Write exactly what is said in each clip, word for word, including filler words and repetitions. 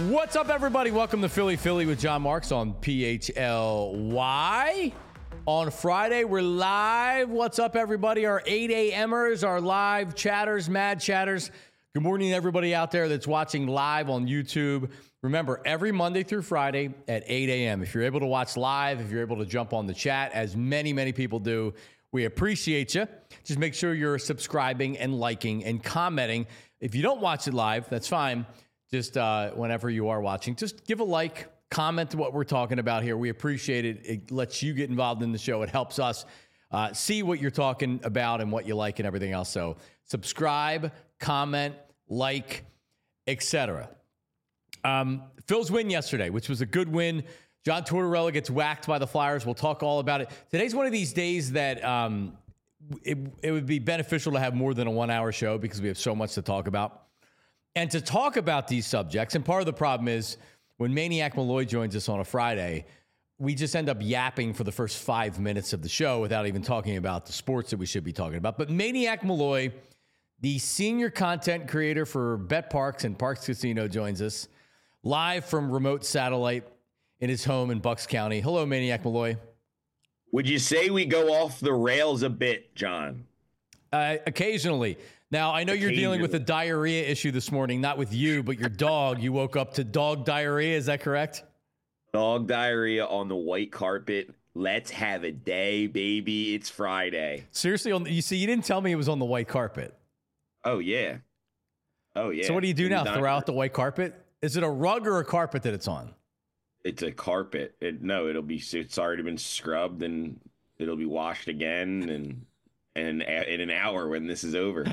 What's up, everybody? Welcome to Philly Philly with John Marks on P H L Y. On Friday, we're live. What's up, everybody? Our eight a.m.ers, our live chatters, mad chatters. Good morning, everybody out there that's watching live on YouTube. Remember, every Monday through Friday at eight a.m. If you're able to watch live, if you're able to jump on the chat, as many, many people do, we appreciate you. Just make sure you're subscribing and liking and commenting. If you don't watch it live, that's fine. Just uh, whenever you are watching, just give a like, comment what we're talking about here. We appreciate it. It lets you get involved in the show. It helps us uh, see what you're talking about and what you like and everything else. So subscribe, comment, like, et cetera. Um, Phil's win yesterday, which was a good win. John Tortorella gets whacked by the Flyers. We'll talk all about it. Today's one of these days that um, it, it would be beneficial to have more than a one-hour show because we have so much to talk about. And to talk about these subjects, and part of the problem is when Maniac Malloy joins us on a Friday, we just end up yapping for the first five minutes of the show without even talking about the sports that we should be talking about. But Maniac Malloy, the senior content creator for Bet Parks and Parks Casino, joins us live from remote satellite in his home in Bucks County. Hello, Maniac Malloy. Would you say we go off the rails a bit, John? Uh, occasionally. Now, I know you're dealing with a diarrhea issue this morning, not with you, but your dog. You woke up to dog diarrhea. Is that correct? Dog diarrhea on the white carpet. Let's have a day, baby. It's Friday. Seriously, on the, you see, you didn't tell me it was on the white carpet. Oh, yeah. Oh, yeah. So what do you do now? Not, Throw out the white carpet? Is it a rug or a carpet that it's on? It's a carpet. It, no, it'll be, it's already been scrubbed and it'll be washed again and... And in an hour when this is over,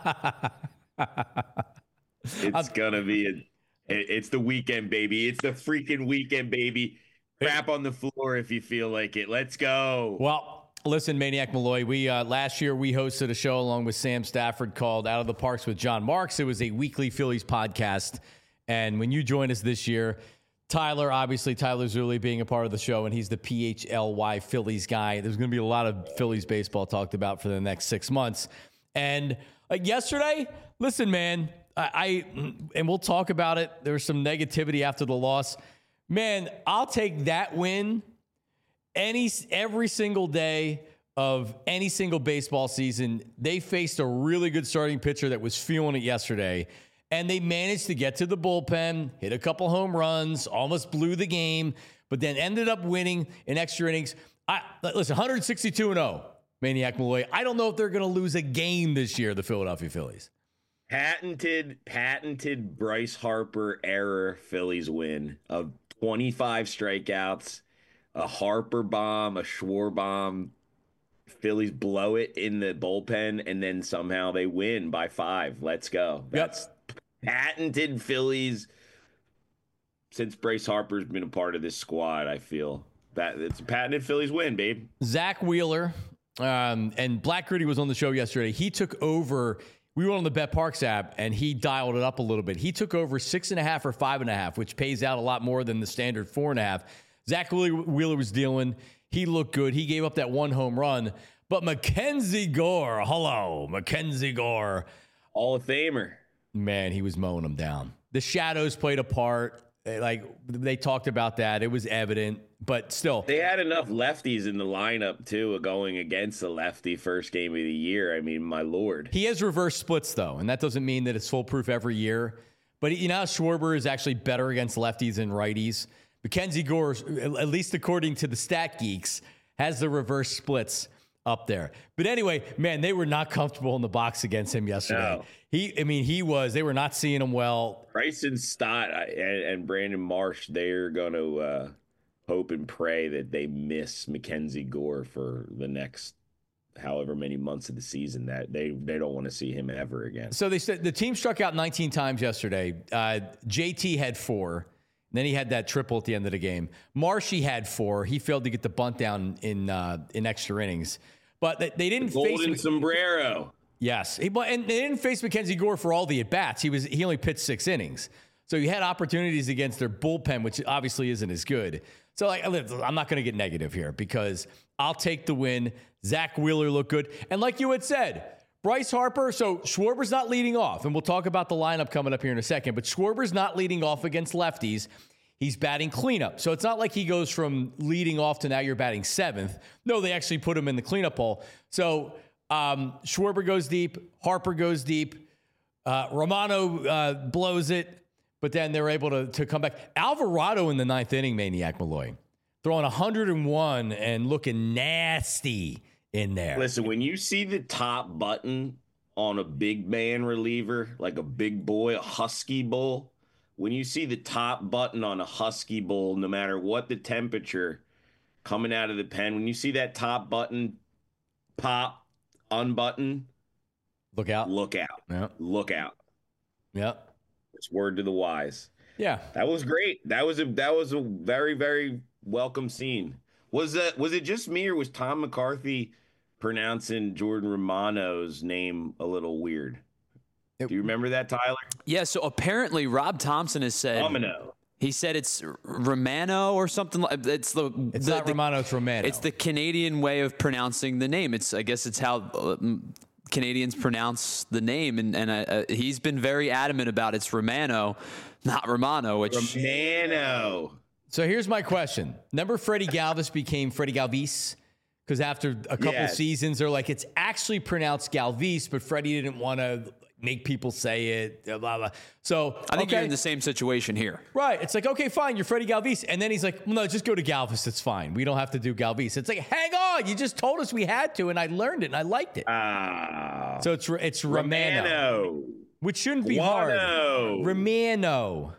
it's gonna be a, it's the weekend, baby. It's the freaking weekend, baby. Crap on the floor if you feel like it. Let's go. Well, listen, Maniac Malloy, we uh, last year we hosted a show along with Sam Stafford called Out of the Parks with John Marks. It was a weekly Phillies podcast, and when you join us this year, Tyler, obviously, Tyler Zulli being a part of the show, and he's the P H L Y Phillies guy. There's going to be a lot of Phillies baseball talked about for the next six months. And like yesterday, listen, man, I, I and we'll talk about it. There was some negativity after the loss. Man, I'll take that win any every single day of any single baseball season. They faced a really good starting pitcher that was feeling it yesterday. And they managed to get to the bullpen, hit a couple home runs, almost blew the game, but then ended up winning in extra innings. I, listen, one sixty-two and oh, Maniac Malloy. I don't know if they're going to lose a game this year, the Philadelphia Phillies. Patented, patented Bryce Harper era Phillies win of twenty-five strikeouts, a Harper bomb, a Schwarber bomb. Phillies blow it in the bullpen, and then somehow they win by five. Let's go. That's yep. Patented Phillies since Bryce Harper's been a part of this squad. I feel that it's a patented Phillies win, babe. Zach Wheeler um, and Black Gritty was on the show yesterday. He took over. We were on the Bet Parks app, and he dialed it up a little bit. He took over six and a half or five and a half, which pays out a lot more than the standard four and a half. Zach Wheeler was dealing. He looked good. He gave up that one home run. But Mackenzie Gore, hello, Mackenzie Gore. Hall of Famer. Man, he was mowing them down. The shadows played a part. Like, they talked about that. It was evident, but still. They had enough lefties in the lineup, too, going against the lefty first game of the year. I mean, my Lord. He has reverse splits, though, and that doesn't mean that it's foolproof every year. But, you know, Schwarber is actually better against lefties than righties. Mackenzie Gore, at least according to the stat geeks, has the reverse splits up there. But anyway, man, they were not comfortable in the box against him yesterday. No. He, I mean, he was, they were not seeing him well. Bryson Stott and, and Brandon Marsh, they're going to uh, hope and pray that they miss Mackenzie Gore for the next however many months of the season. That they, they don't want to see him ever again. So they said the team struck out nineteen times yesterday. Uh, J T had four. Then he had that triple at the end of the game. Marshy had four. He failed to get the bunt down in uh, in extra innings. But they, they didn't the golden face sombrero. Yes, he, and they didn't face Mackenzie Gore for all the at bats. He was he only pitched six innings, so you had opportunities against their bullpen, which obviously isn't as good. So like, I'm not going to get negative here because I'll take the win. Zach Wheeler looked good, and like you had said, Bryce Harper, so Schwarber's not leading off, and we'll talk about the lineup coming up here in a second, but Schwarber's not leading off against lefties. He's batting cleanup. So it's not like he goes from leading off to now you're batting seventh. No, they actually put him in the cleanup hole. So um, Schwarber goes deep, Harper goes deep, uh, Romano uh, blows it, but then they're able to, to come back. Alvarado in the ninth inning, Maniac Malloy, throwing one hundred one and looking nasty in there. Listen, when you see the top button on a big man reliever, like a big boy, a husky bull, when you see the top button on a husky bull, no matter what the temperature coming out of the pen, when you see that top button pop, unbutton, look out. Look out. Yeah. Look out. Yeah. It's word to the wise. Yeah. That was great. That was a that was a very, very welcome scene. Was that was it just me, or was Tom McCarthy pronouncing Jordan Romano's name a little weird? Do you remember that, Tyler? Yeah, so apparently Rob Thompson has said Romano. He said it's Romano or something like it's the It's the, not the, Romano, it's Romano. It's the Canadian way of pronouncing the name. It's I guess it's how uh, Canadians pronounce the name, and and uh, he's been very adamant about it's Romano, not Romano. Which Romano. So here's my question. Remember Freddie Galvis became Freddie Galvis? Because after a couple Yes. seasons, they're like, it's actually pronounced Galvis, but Freddie didn't want to make people say it, blah, blah. So I think okay. you're in the same situation here. Right. It's like, okay, fine, you're Freddie Galvis. And then he's like, well, no, just go to Galvis. It's fine. We don't have to do Galvis. It's like, hang on. You just told us we had to, and I learned it, and I liked it. Ah. So it's it's Romano, Romano. which shouldn't be Guano. hard. Romano.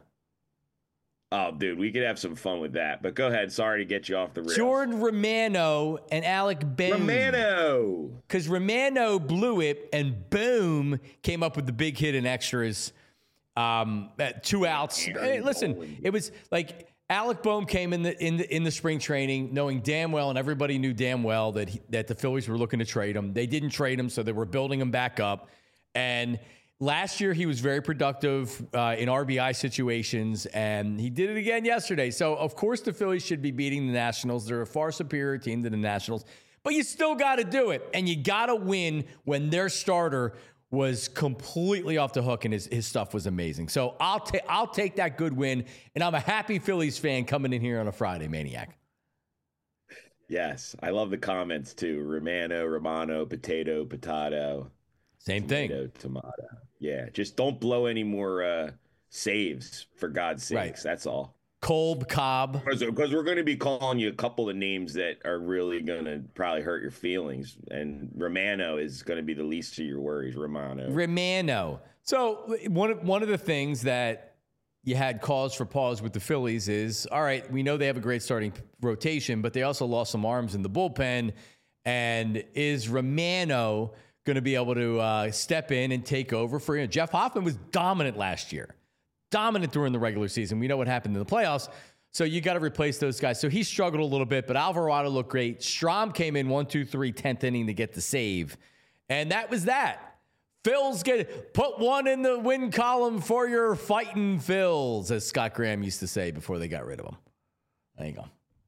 Oh, dude, we could have some fun with that. But go ahead. Sorry to get you off the rails. Jordan Romano and Alec Boehm. Romano. Because Romano blew it, and Boom came up with the big hit in extras. Um, at two outs. Hey, listen, it was like Alec Boehm came in the in the in the spring training, knowing damn well, and everybody knew damn well that he, that the Phillies were looking to trade him. They didn't trade him, so they were building him back up. And last year, he was very productive uh, in R B I situations, and he did it again yesterday. So, of course, the Phillies should be beating the Nationals. They're a far superior team than the Nationals, but you still got to do it, and you got to win when their starter was completely off the hook, and his, his stuff was amazing. So I'll take I'll take that good win, and I'm a happy Phillies fan coming in here on a Friday, Maniac. Yes, I love the comments too. Romano, Romano, potato, potato. Same tomato, thing. Tomato. Yeah, just don't blow any more uh, saves, for God's sakes. Right. That's all. Kolb, Cobb. Because we're going to be calling you a couple of names that are really going to probably hurt your feelings. And Romano is going to be the least of your worries, Romano. Romano. So one of, one of the things that you had cause for pause with the Phillies is, all right, we know they have a great starting rotation, but they also lost some arms in the bullpen. And is Romano going to be able to uh, step in and take over for him? Jeff Hoffman was dominant last year. Dominant during the regular season. We know what happened in the playoffs. So you got to replace those guys. So he struggled a little bit, but Alvarado looked great. Strahm came in one, two, three, tenth inning to get the save. And that was that. Phil's get put one in the win column for your fighting Phils, as Scott Graham used to say before they got rid of him. There you go.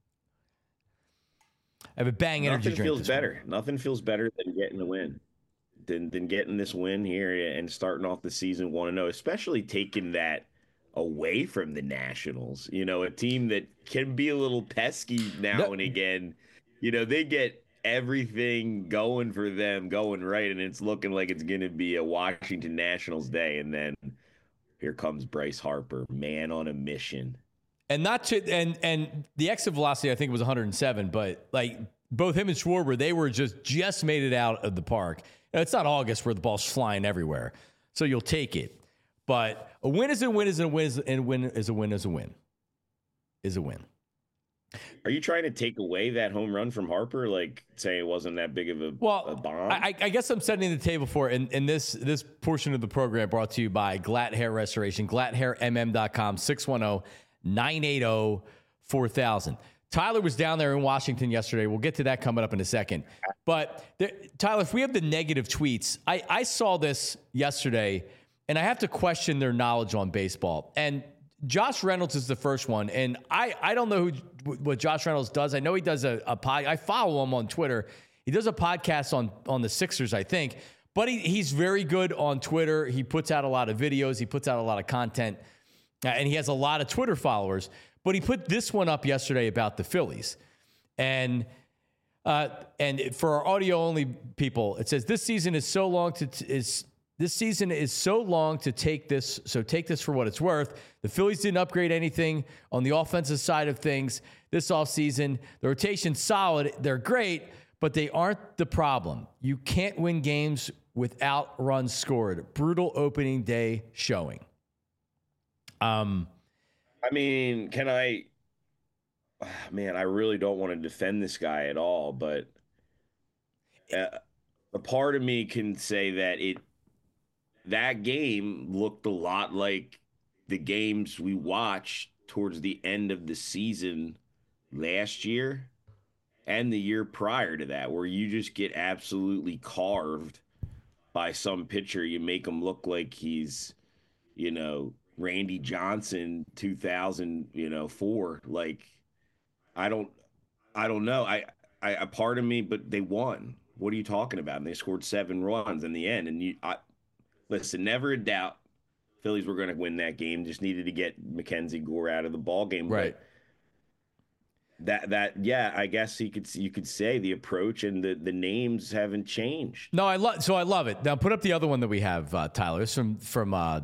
I have a bang energy Nothing drink. feels this better. morning. Nothing feels better than getting the win. Than, than getting this win here and starting off the season one and oh, especially taking that away from the Nationals. You know, a team that can be a little pesky now Yep. and again. You know, they get everything going for them, going right, and it's looking like it's going to be a Washington Nationals day. And then here comes Bryce Harper, man on a mission. And not to and and the exit velocity I think was one hundred seven, but like both him and Schwarber, they were just just made it out of the park. Now, it's not August where the ball's flying everywhere, so you'll take it. But a win is a win is a win is a win is a win is a win is a win. Are you trying to take away that home run from Harper, like say it wasn't that big of a, Well, a bomb? I, I guess I'm setting the table for it. And, and this this portion of the program brought to you by Glatt Hair Restoration, glatt hair m m dot com, six one zero, nine eight zero, four thousand. Tyler was down there in Washington yesterday. We'll get to that coming up in a second. But there, Tyler, if we have the negative tweets, I, I saw this yesterday, and I have to question their knowledge on baseball. And Josh Reynolds is the first one. And I, I don't know who, what Josh Reynolds does. I know he does a, a pod. I follow him on Twitter. He does a podcast on, on the Sixers, I think. But But he, he's very good on Twitter. He puts out a lot of videos. He puts out a lot of content. Uh, and he has a lot of Twitter followers. But he put this one up yesterday about the Phillies. And uh, and for our audio-only people, it says, this season is so long to t- is this season is so long to take this, so take this for what it's worth. The Phillies didn't upgrade anything on the offensive side of things this offseason. The rotation's solid. They're great, but they aren't the problem. You can't win games without runs scored. Brutal opening day showing. Um, I mean, can I, man, I really don't want to defend this guy at all, but uh, a part of me can say that it, that game looked a lot like the games we watched towards the end of the season last year and the year prior to that, where you just get absolutely carved by some pitcher. You make him look like he's, you know, Randy Johnson two thousand, you know, four. Like, I don't, I don't know. I, I, a part of me, but they won. What are you talking about? And they scored seven runs in the end. And you, I, listen, never a doubt Phillies were going to win that game. Just needed to get Mackenzie Gore out of the ball game. Right. But that, that, yeah, I guess you could, you could say the approach and the, the names haven't changed. No, I love, so I love it. Now put up the other one that we have, uh, Tyler. It's from, from, uh,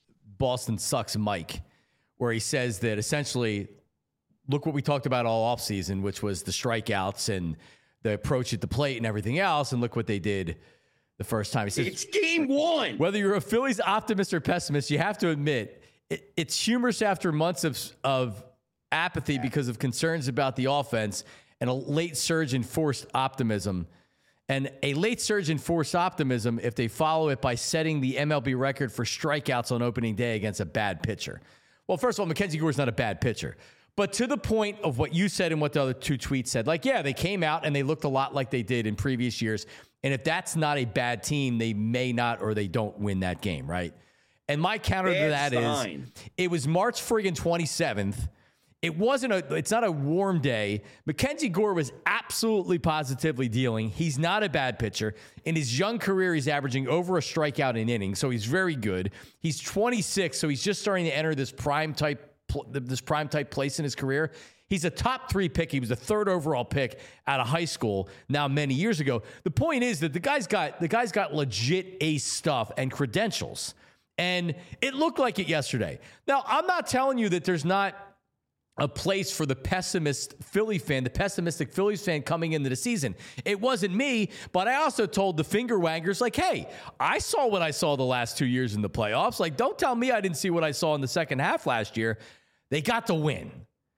Boston Sucks Mike, where he says that essentially, look what we talked about all offseason, which was the strikeouts and the approach at the plate and everything else, and look what they did the first time. He says, it's game one. Whether you're a Phillies optimist or pessimist, you have to admit it, it's humorous after months of, of apathy because of concerns about the offense and a late surge in forced optimism. And a late surge in forced optimism if they follow it by setting the M L B record for strikeouts on opening day against a bad pitcher. Well, first of all, Mackenzie Gore's not a bad pitcher. But to the point of what you said and what the other two tweets said, like, yeah, they came out and they looked a lot like they did in previous years. And if that's not a bad team, they may not or they don't win that game, right? And my counter Bad to that sign. is it was March friggin' twenty-seventh. It wasn't a, it's not a warm day. Mackenzie Gore was absolutely positively dealing. He's not a bad pitcher. In his young career, he's averaging over a strikeout an inning, so he's very good. He's twenty-six, so he's just starting to enter this prime type, this prime type place in his career. He's a top three pick. He was the third overall pick out of high school now many years ago. The point is that the guy's got, the guy's got legit ace stuff and credentials. And it looked like it yesterday. Now, I'm not telling you that there's not a place for the pessimist Philly fan, the pessimistic Phillies fan coming into the season. It wasn't me, but I also told the finger waggers, like, hey, I saw what I saw the last two years in the playoffs. Like, don't tell me I didn't see what I saw in the second half last year. They got the win.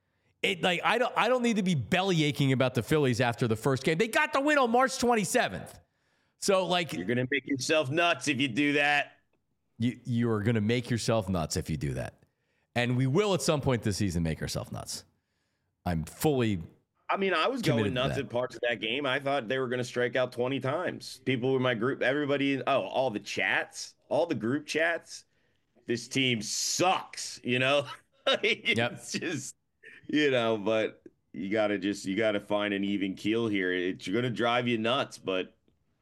It like I don't I don't need to be belly aching about the Phillies after the first game. They got the win on March twenty-seventh. So like you're gonna make yourself nuts if you do that. You you are gonna make yourself nuts if you do that. And we will at some point this season make ourselves nuts. I'm fully I mean, I was going nuts that. at parts of that game. I thought they were going to strike out twenty times. People in my group, everybody, oh, all the chats, all the group chats. This team sucks, you know? It's yep. just, you know, but you got to just, you got to find an even keel here. It's going to drive you nuts. But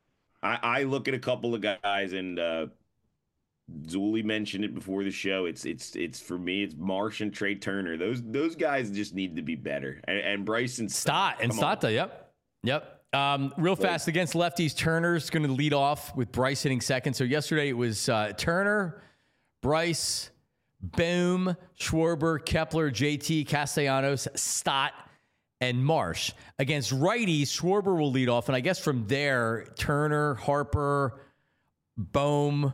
I, I look at a couple of guys and, uh, Zuli mentioned it before the show. It's it's it's for me. It's Marsh and Trey Turner. Those those guys just need to be better. And, and Bryson Stott and Stotta. Yep, yep. Um, real fast against lefties. Turner's going to lead off with Bryce hitting second. So yesterday it was uh, Turner, Bryce, Boom, Schwarber, Kepler, J T, Castellanos, Stott, and Marsh. Against righties, Schwarber will lead off, and I guess from there, Turner, Harper, Bohm.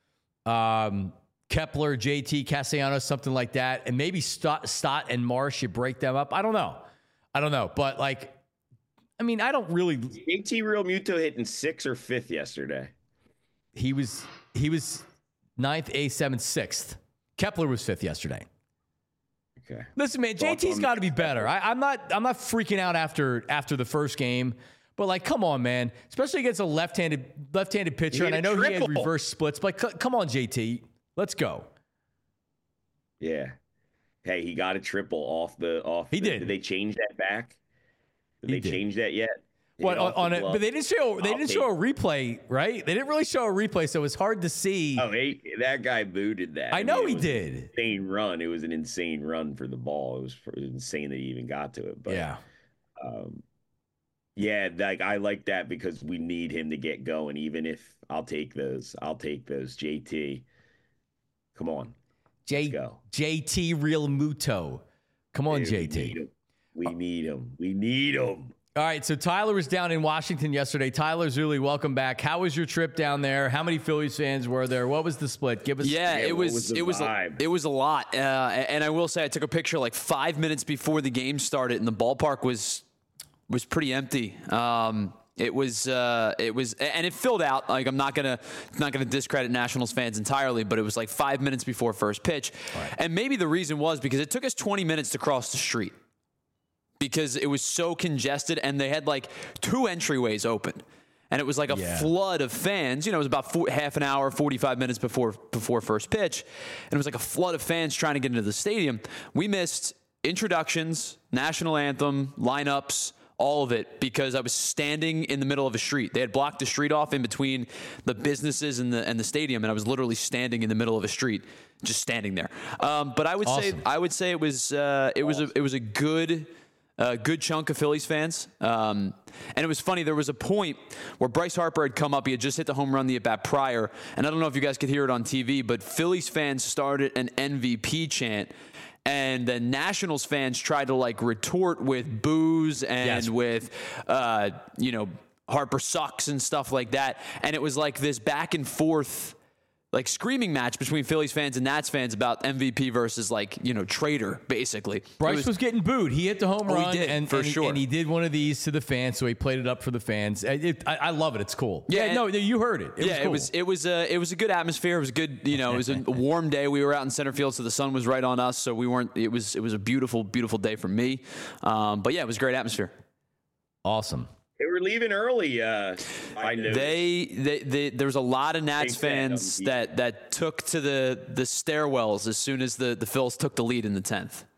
Um, Kepler, J T, Castellanos, something like that. And maybe Stott, Stott and Marsh, you break them up. I don't know. I don't know. But, like, I mean, I don't really... J T Real Muto hitting sixth or fifth yesterday. He was he was ninth, eighth, seventh, sixth. Kepler was fifth yesterday. Okay. Listen, man, J T's got to be better. I, I'm not I'm not freaking out after after the first game. But, like, come on, man. Especially against a left-handed left-handed pitcher. And I know he had reverse splits. But c- come on, J T. Let's go. Yeah. Hey, he got a triple off the off. He the, did. Did they change that back? Did he they did. change that yet? What on, on it? But they didn't show. They I'll didn't take show a replay, right? They didn't really show a replay, so it was hard to see. Oh, he, that guy booted that. I know mean, he was did. An insane run. It was an insane run for the ball. It was, it was insane that he even got to it. But yeah, um, yeah, like I like that because we need him to get going. Even if I'll take those, I'll take those. J T, come on, J let's go. J T Real Muto, come on, Dude, J T. We need him. We need him. We need him. All right, so Tyler was down in Washington yesterday. Tyler Zuli, welcome back. How was your trip down there? How many Phillies fans were there? What was the split? Give us. Yeah, yeah it was, was the it was vibe? it was a lot. Uh, and I will say I took a picture like five minutes before the game started, and the ballpark was was pretty empty. Um, it was uh, it was and it filled out. Like I'm not gonna not gonna discredit Nationals fans entirely, but it was like five minutes before first pitch, right. And maybe the reason was because it took us twenty minutes to cross the street. Because it was so congested and they had like two entryways open. And it was like a yeah. flood of fans. You know, it was about four, half an hour, forty-five minutes before before first pitch. And it was like a flood of fans trying to get into the stadium. We missed introductions, national anthem, lineups, all of it because I was standing in the middle of a street. They had blocked the street off in between the businesses and the and the stadium, and I was literally standing in the middle of a street, just standing there. Um, but I would awesome. say I would say it was uh, it was a, it was a good. A good chunk of Phillies fans. Um, and it was funny, there was a point where Bryce Harper had come up. He had just hit the home run the at-bat prior. And I don't know if you guys could hear it on T V, but Phillies fans started an M V P chant. And then Nationals fans tried to, like, retort with boos and yes. with, uh, you know, Harper sucks and stuff like that. And it was like this back and forth like screaming match between Phillies fans and Nats fans about M V P versus like, you know, traitor, basically. Bryce was, was getting booed. He hit the home oh, run he did, and, for and, he, sure. and he did one of these to the fans, so he played it up for the fans. It, it, I, I love it. It's cool. Yeah, yeah no, you heard it. it yeah, was cool. it was it was a it was a good atmosphere. It was good, you know, it was a warm day. We were out in center field, so the sun was right on us, so we weren't it was it was a beautiful, beautiful day for me. Um, but yeah, it was a great atmosphere. Awesome. They were leaving early. Uh, I know they, they, they, there was a lot of Nats Big fans fan. that, that took to the, the stairwells as soon as the, the Phils took the lead in the tenth.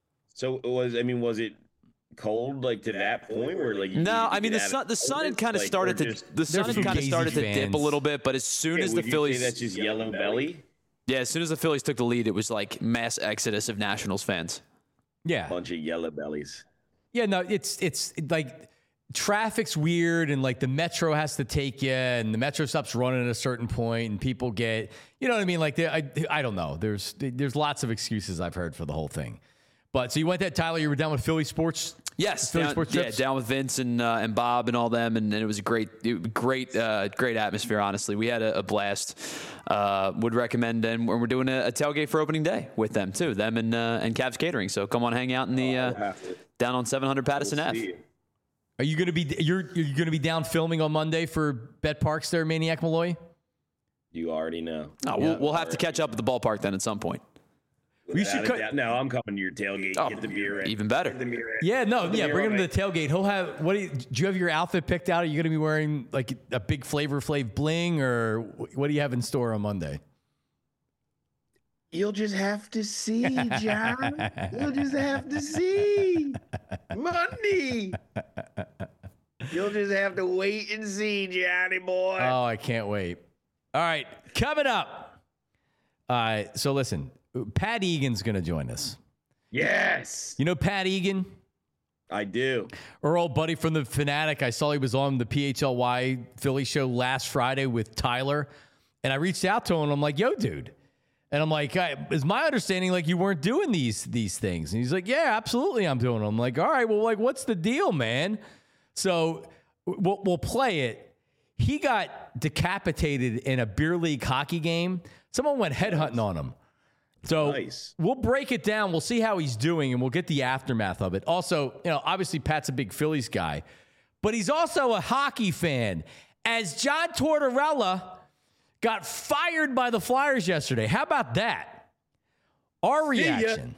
So it was I mean, was it cold like to that point where like you No, you I mean the get out sun of the sun had like, kind of started to just, the sun had some kind of Gazy started to dip fans. a little bit, but as soon yeah, as would the you Phillies say that's just yellow belly. Yeah, as soon as the Phillies took the lead, it was like mass exodus of Nationals fans. Yeah. Bunch of yellow bellies. Yeah, no, it's it's like traffic's weird and like the metro has to take you and the metro stops running at a certain point and people get, you know what I mean? Like, I, I don't know. There's there's lots of excuses I've heard for the whole thing. But so you went that, Tyler, you were down with Philly Sports? Yes, Philly down, Sports yeah, trips? down with Vince and uh, and Bob and all them, and, and it was a great, it, great, uh, great atmosphere. Honestly, we had a, a blast. Uh, would recommend, and we're doing a, a tailgate for opening day with them too, them and uh, and Cavs Catering. So come on, hang out in the uh, down on seven hundred Patterson We'll Ave. Are you gonna be you're you're gonna be down filming on Monday for Bet Parks there, Maniac Malloy? You already know. Oh, we'll, we'll have to catch up at the ballpark then at some point. We should cut. Doubt. No, I'm coming to your tailgate. Oh, Get the beer in. even better. Get the beer in. Yeah, no, Get the yeah, beer bring him on to it. the tailgate. He'll have what? Do you, do you have your outfit picked out? Are you gonna be wearing like a big Flavor Flav bling, or what do you have in store on Monday? You'll just have to see, John. You'll just have to see. Monday. You'll just have to wait and see, Johnny boy. Oh, I can't wait. All right, coming up. All right, so listen, Pat Egan's going to join us. Yes. You know Pat Egan? I do. Our old buddy from the Fanatic. I saw he was on the P H L Y Philly show last Friday with Tyler, and I reached out to him, and I'm like, yo, dude. And I'm like, is my understanding like you weren't doing these these things? And he's like, yeah, absolutely I'm doing them. I'm like, all right, well, like, what's the deal, man? So we'll, we'll play it. He got decapitated in a beer league hockey game. Someone went headhunting on him. So Nice. We'll break it down. We'll see how he's doing, and we'll get the aftermath of it. Also, you know, obviously Pat's a big Phillies guy, but he's also a hockey fan. As John Tortorella got fired by the Flyers yesterday. How about that? Our reaction.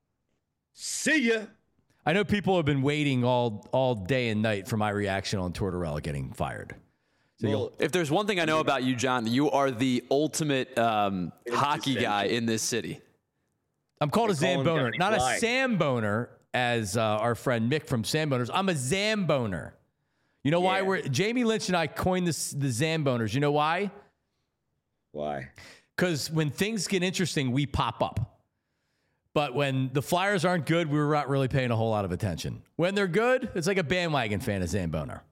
See ya. I know people have been waiting all all day and night for my reaction on Tortorella getting fired. So Well, if there's one thing I know about you, John, you are the ultimate um, hockey essential. guy in this city. I'm called a They call him Zamboner, Johnny not Fly. a Samboner, as uh, our friend Mick from Samboners. I'm a Zamboner. You know why Yeah. we're Jamie Lynch and I coined this the Zamboners. You know why? Why? Because when things get interesting, we pop up. But when the Flyers aren't good, we're not really paying a whole lot of attention. When they're good, it's like a bandwagon fan of Zamboner.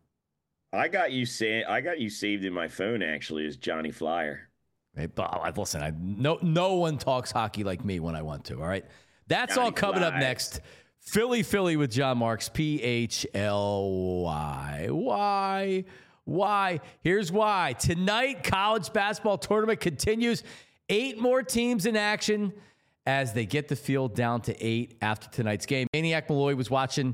I got you sa- I got you saved in my phone actually as Johnny Flyer. Hey, but listen, I, no, no one talks hockey like me when I want to, all right? That's Johnny all coming up Flies. next. Philly, Philly with John Marks, P H L Y. Why? Why? Here's why. Tonight, college basketball tournament continues. Eight more teams in action as they get the field down to eight after tonight's game. Maniac Malloy was watching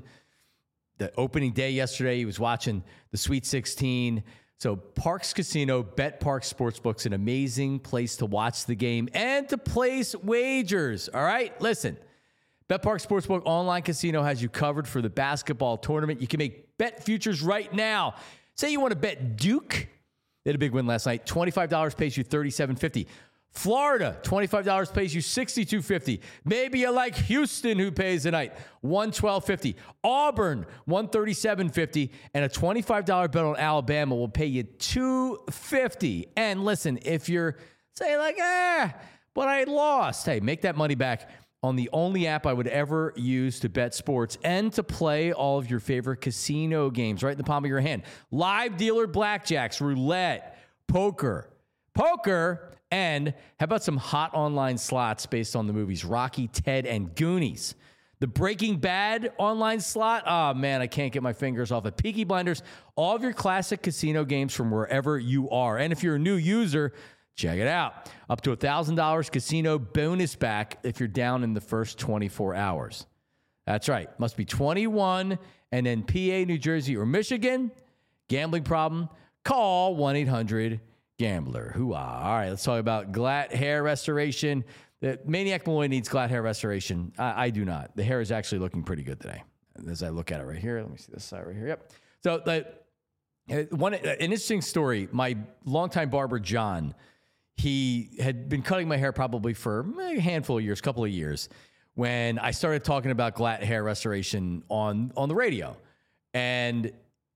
the opening day yesterday. He was watching the Sweet sixteen. So Parx Casino, Bet Parx Sportsbook's an amazing place to watch the game and to place wagers. All right, listen. Bet Parx Sportsbook online casino has you covered for the basketball tournament. You can make bet futures right now. Say you want to bet Duke. They had a big win last night. twenty-five dollars pays you thirty-seven fifty. Florida, twenty-five dollars pays you sixty-two fifty. Maybe you like Houston, who pays tonight, one twelve fifty. Auburn, one thirty-seven fifty. And a twenty-five dollars bet on Alabama will pay you two fifty. And listen, if you're saying like, ah, but I lost, hey, make that money back on the only app I would ever use to bet sports and to play all of your favorite casino games right in the palm of your hand. Live dealer blackjacks, roulette, poker, poker, and how about some hot online slots based on the movies Rocky, Ted, and Goonies? The Breaking Bad online slot, oh man, I can't get my fingers off it. Peaky Blinders, all of your classic casino games from wherever you are. And if you're a new user, check it out. Up to one thousand dollars casino bonus back if you're down in the first twenty-four hours. That's right. Must be twenty-one and then P A, New Jersey, or Michigan. Gambling problem? Call one eight hundred gambler. Hoo-ah. All right, let's talk about Glatt hair restoration. The Maniac Malloy needs Glatt hair restoration. I, I do not. The hair is actually looking pretty good today. As I look at it right here. Let me see this side right here. Yep. So the, uh, one, uh, an interesting story. My longtime barber, John, he had been cutting my hair probably for a handful of years, couple of years, when I started talking about Glatt hair restoration on, on the radio. And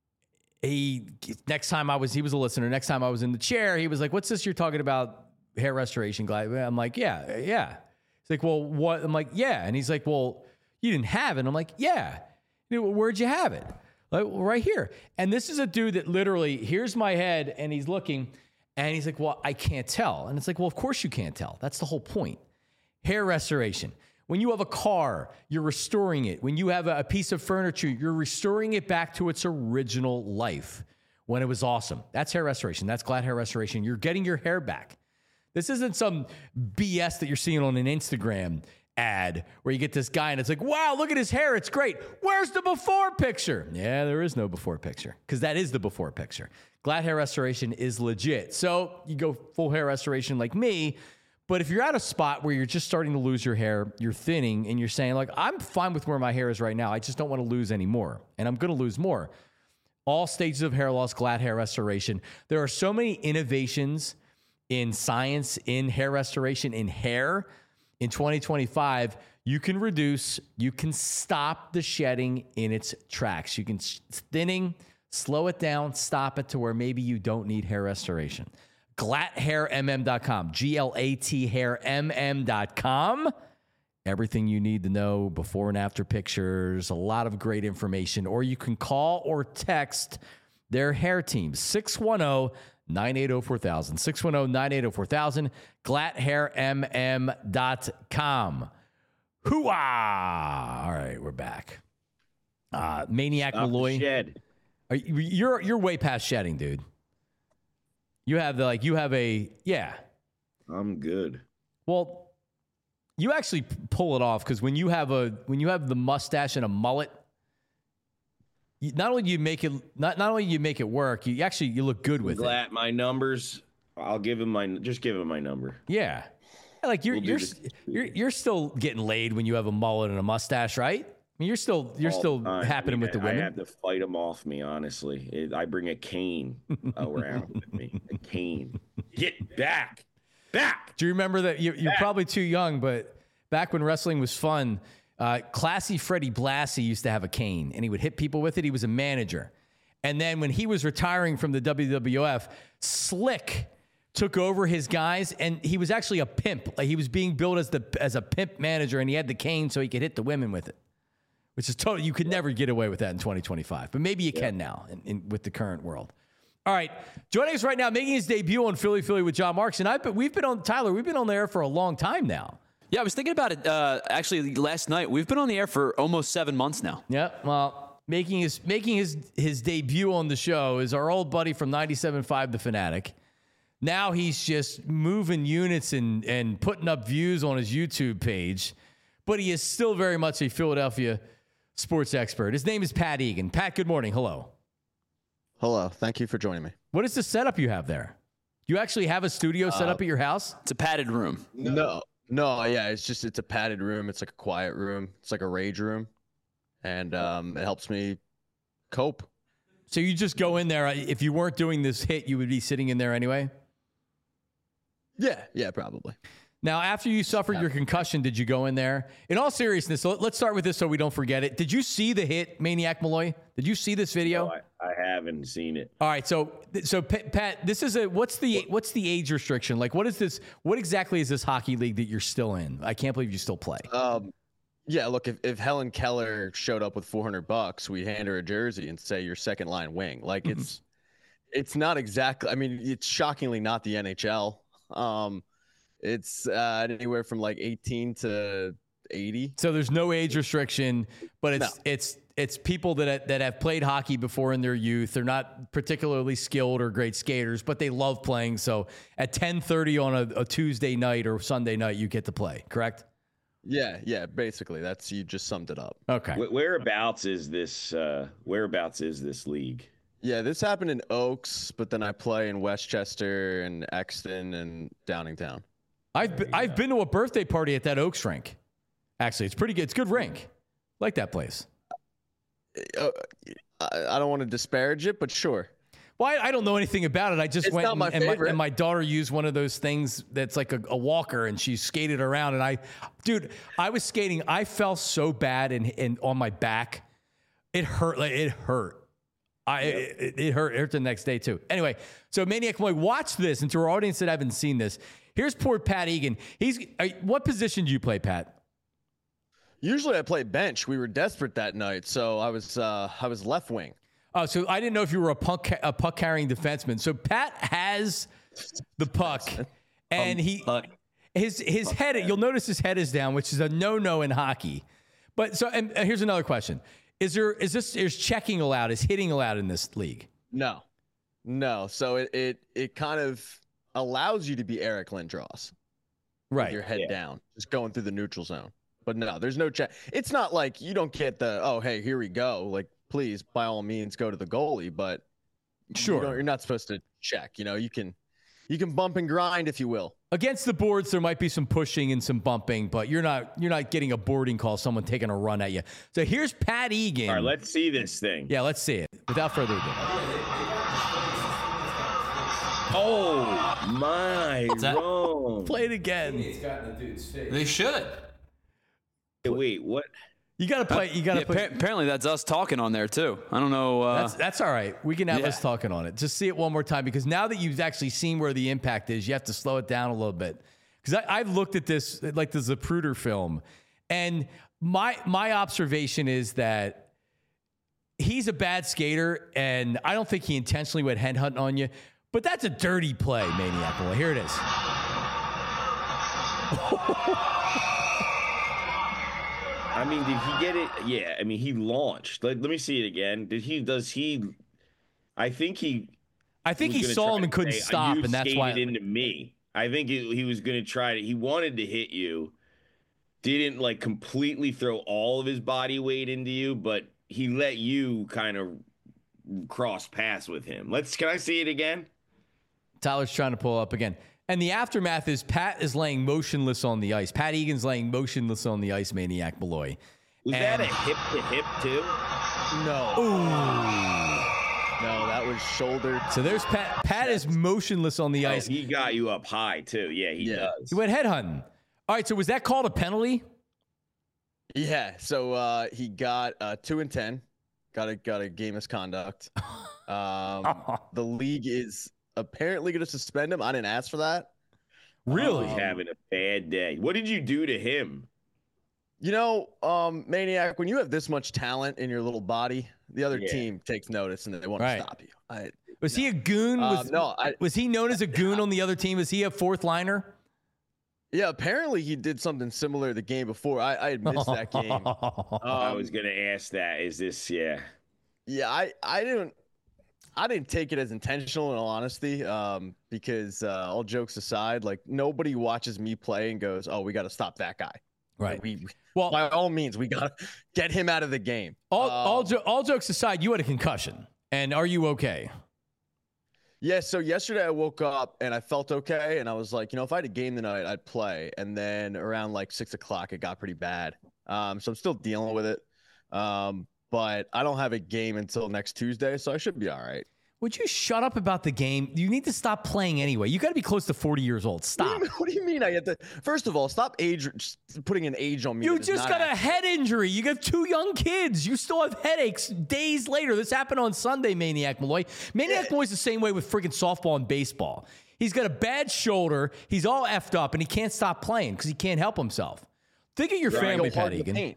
he, next time I was, he was a listener. Next time I was in the chair, he was like, what's this you're talking about? Hair restoration, Glatt? I'm like, yeah, yeah. He's like, well, what? I'm like, yeah. And he's like, well, you didn't have it. I'm like, yeah. You know, where'd you have it? Like, well, right here. And this is a dude that literally, here's my head, and he's looking, and he's like, well, I can't tell. And it's like, well, of course you can't tell. That's the whole point. Hair restoration. When you have a car, you're restoring it. When you have a, a piece of furniture, you're restoring it back to its original life when it was awesome. That's hair restoration. That's Glatt hair restoration. You're getting your hair back. This isn't some B S that you're seeing on an Instagram ad where you get this guy and it's like, wow, look at his hair. It's great. Where's the before picture? Yeah, there is no before picture because that is the before picture. Glatt hair restoration is legit. So you go full hair restoration like me. But if you're at a spot where you're just starting to lose your hair, you're thinning, and you're saying, like, I'm fine with where my hair is right now. I just don't want to lose any more. And I'm going to lose more. All stages of hair loss, Glatt hair restoration. There are so many innovations in science, in hair restoration, in hair. In twenty twenty-five, you can reduce, you can stop the shedding in its tracks. You can thinning, slow it down, stop it to where maybe you don't need hair restoration. glatt hair m m dot com, G L A T hair m m dot com. Everything you need to know, before and after pictures, a lot of great information. Or you can call or text their hair team, six one zero, nine eight zero, four thousand, six one zero, nine eight zero, four thousand, glatt hair m m dot com. Hoo-ah! All right, we're back. Uh, Maniac Stop the Malloy. shed. Are you, you're you're way past shedding, dude. You have the like you have a yeah. I'm good. Well, you actually pull it off because when you have a when you have the mustache and a mullet, you, not only do you make it not not only do you make it work, you actually you look good with Glatt, it. my numbers. I'll give him my just give him my number. Yeah, like you're We'll you're, this. you're you're still getting laid when you have a mullet and a mustache, right? I mean, you're still you're All still the time. happening I with the mean, women. I have to fight them off me, honestly. It, I bring a cane around with me. A cane. Get back. Back. Do you remember that? You're, you're probably too young, but back when wrestling was fun, uh, Classy Freddie Blassie used to have a cane, and he would hit people with it. He was a manager. And then when he was retiring from the W W F, Slick took over his guys, and he was actually a pimp. Like, he was being billed as the as a pimp manager, and he had the cane so he could hit the women with it, which is totally, you could never get away with that in twenty twenty-five. But maybe you yeah. can now in, in, with the current world. All right, joining us right now, making his debut on Philly Philly with John Marks, and I've been, we've been on, Tyler, we've been on the air for a long time now. Yeah, I was thinking about it uh, actually last night. We've been on the air for almost seven months now. Yeah, well, making his making his his debut on the show is our old buddy from ninety-seven point five, The Fanatic. Now he's just moving units and, and putting up views on his YouTube page, but he is still very much a Philadelphia sports expert. His name is Pat Egan. Pat, good morning. Hello. Hello. Thank you for joining me. What is the setup you have there? You actually have a studio set uh, up at your house? It's a padded room. No, no, yeah, it's just, it's a padded room. It's like a quiet room. It's like a rage room. And um, it helps me cope. So you just go in there. If you weren't doing this hit, you would be sitting in there anyway? Yeah, yeah, probably. Now, after you suffered your concussion, did you go in there? In all seriousness, so let's start with this so we don't forget it. Did you see the hit, Maniac Malloy? Did you see this video? No, I, I haven't seen it. All right, so so Pat, this is a what's the what's the age restriction? Like, what is this? What exactly is this hockey league that you're still in? I can't believe you still play. Um, yeah, look, if, if Helen Keller showed up with four hundred bucks, we'd hand her a jersey and say you're second line wing. Like mm-hmm. it's it's not exactly. I mean, it's shockingly not the N H L. Um, it's uh, anywhere from like eighteen to eighty. So there's no age restriction, but it's no. it's it's people that that have played hockey before in their youth. They're not particularly skilled or great skaters, but they love playing. So at ten thirty on a, a Tuesday night or Sunday night, you get to play. Correct? Yeah, yeah. Basically, that's you just summed it up. Okay. Whereabouts is this? Uh, whereabouts is this league? Yeah, this happened in Oaks, but then I play in Westchester and Exton and Downingtown. I've been, I've been to a birthday party at that Oaks rink. Actually, it's pretty good. It's a good rink. Like that place. Uh, I don't want to disparage it, but sure. Well, I, I don't know anything about it. I just it's went not my and, and, favorite. my, and my daughter used one of those things that's like a, a walker, and she skated around. And I, dude, I was skating. I fell so bad and and on my back, it hurt. Like it hurt. I, it, it hurt. It hurt the next day too. Anyway, so Maniac Malloy, watch this, and to our audience that haven't seen this, here's poor Pat Egan. He's uh, what position do you play, Pat? Usually I play bench. We were desperate that night, so I was uh, I was left wing. Oh, so I didn't know if you were a puck a puck carrying defenseman. So Pat has the puck, and he his his head. You'll notice his head is down, which is a no no in hockey. But so and here's another question. Is there is this is checking allowed? Is hitting allowed in this league? No, no. So it it, it kind of allows you to be Eric Lindros, right? With your head yeah. down, just going through the neutral zone. But no, there's no check. It's not like you don't get the oh hey here we go. Like please by all means go to the goalie, but sure you you're not supposed to check. You know you can you can bump and grind if you will. Against the boards, there might be some pushing and some bumping, but you're not you're not getting a boarding call, someone taking a run at you. So here's Pat Egan. All right, let's see this thing. Yeah, let's see it. Without further ado. Oh, my wrong. Play it again. They should. Hey, wait, what? You got to play. You got to yeah, play. Apparently, that's us talking on there, too. I don't know. Uh, that's, that's all right. We can have yeah. us talking on it. Just see it one more time, because now that you've actually seen where the impact is, you have to slow it down a little bit. Because I've looked at this, like the Zapruder film, and my my observation is that he's a bad skater, and I don't think he intentionally went headhunting on you. But that's a dirty play, Maniac Boy. Here it is. I mean, did he get it? Yeah, I mean, he launched. Let, let me see it again. Did he, does he, I think he. I think he saw him and couldn't say, stop, and that's why. You into me. I think he, he was going to try to, he wanted to hit you. Didn't like completely throw all of his body weight into you, but he let you kind of cross paths with him. Let's, can I see it again? Tyler's trying to pull up again. And the aftermath is Pat is laying motionless on the ice. Pat Egan's laying motionless on the ice, Maniac Malloy. Was and, that a hip-to-hip, too? No. Ooh. No, that was shoulder. So there's Pat. Pat is motionless on the oh, ice. He got you up high, too. Yeah, he yeah. does. He went headhunting. All right, so was that called a penalty? Yeah, so uh, he got uh, two and ten. got a got a game misconduct. Um, the league is apparently going to suspend him. I didn't ask for that. Really? He's having a bad day. What did you do to him? You know, um, Maniac, when you have this much talent in your little body, the other Yeah. team takes notice and they want Right. to stop you. I, Was no. he a goon? Um, Was, no, I, was he known as a goon on the other team? Was he a fourth liner? yeah, apparently he did something similar the game before. I, I had missed that game. Um, I was gonna ask that. Is this yeah? Yeah, I, I didn't I didn't take it as intentional in all honesty. Um, because uh, all jokes aside, like nobody watches me play and goes, "Oh, we got to stop that guy." Right. Like, we, we Well, by all means, we got to get him out of the game. all, Um, all, jo- all jokes aside, you had a concussion. And are you okay? Yeah, so yesterday I woke up and I felt okay, and I was like, you know, if I had a game tonight, I'd play. And then around like six o'clock, it got pretty bad. Um, so I'm still dealing with it. Um, but I don't have a game until next Tuesday, so I should be all right. Would you shut up about the game? You need to stop playing anyway. You got to be close to forty years old. What Stop. do, you mean, what do you mean I have to? First of all, stop age putting an age on me. You that is just not got a accurate. head injury. You got two young kids. You still have headaches days later. This happened on Sunday, Maniac Malloy. Maniac Yeah. Malloy's the same way with freaking softball and baseball. He's got a bad shoulder. He's all effed up, and he can't stop playing because he can't help himself. Think of your Right, family, go hard Pat in the Egan. paint.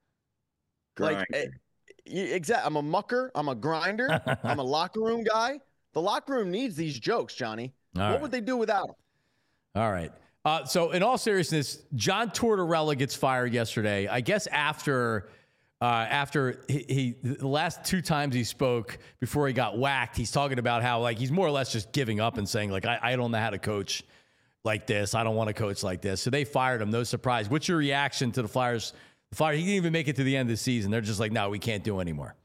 Like, Grinder. eh, yeah, exactly. I'm a mucker. I'm a grinder. I'm a locker room guy. The locker room needs these jokes, Johnny. All what right. would they do without them? All right. Uh, so, in all seriousness, John Tortorella gets fired yesterday. I guess after uh, after he, he the last two times he spoke before he got whacked, he's talking about how like he's more or less just giving up and saying like I, I don't know how to coach like this. I don't want to coach like this. So they fired him. No surprise. What's your reaction to the Flyers? The Flyers. He didn't even make it to the end of the season. They're just like, no, we can't do anymore.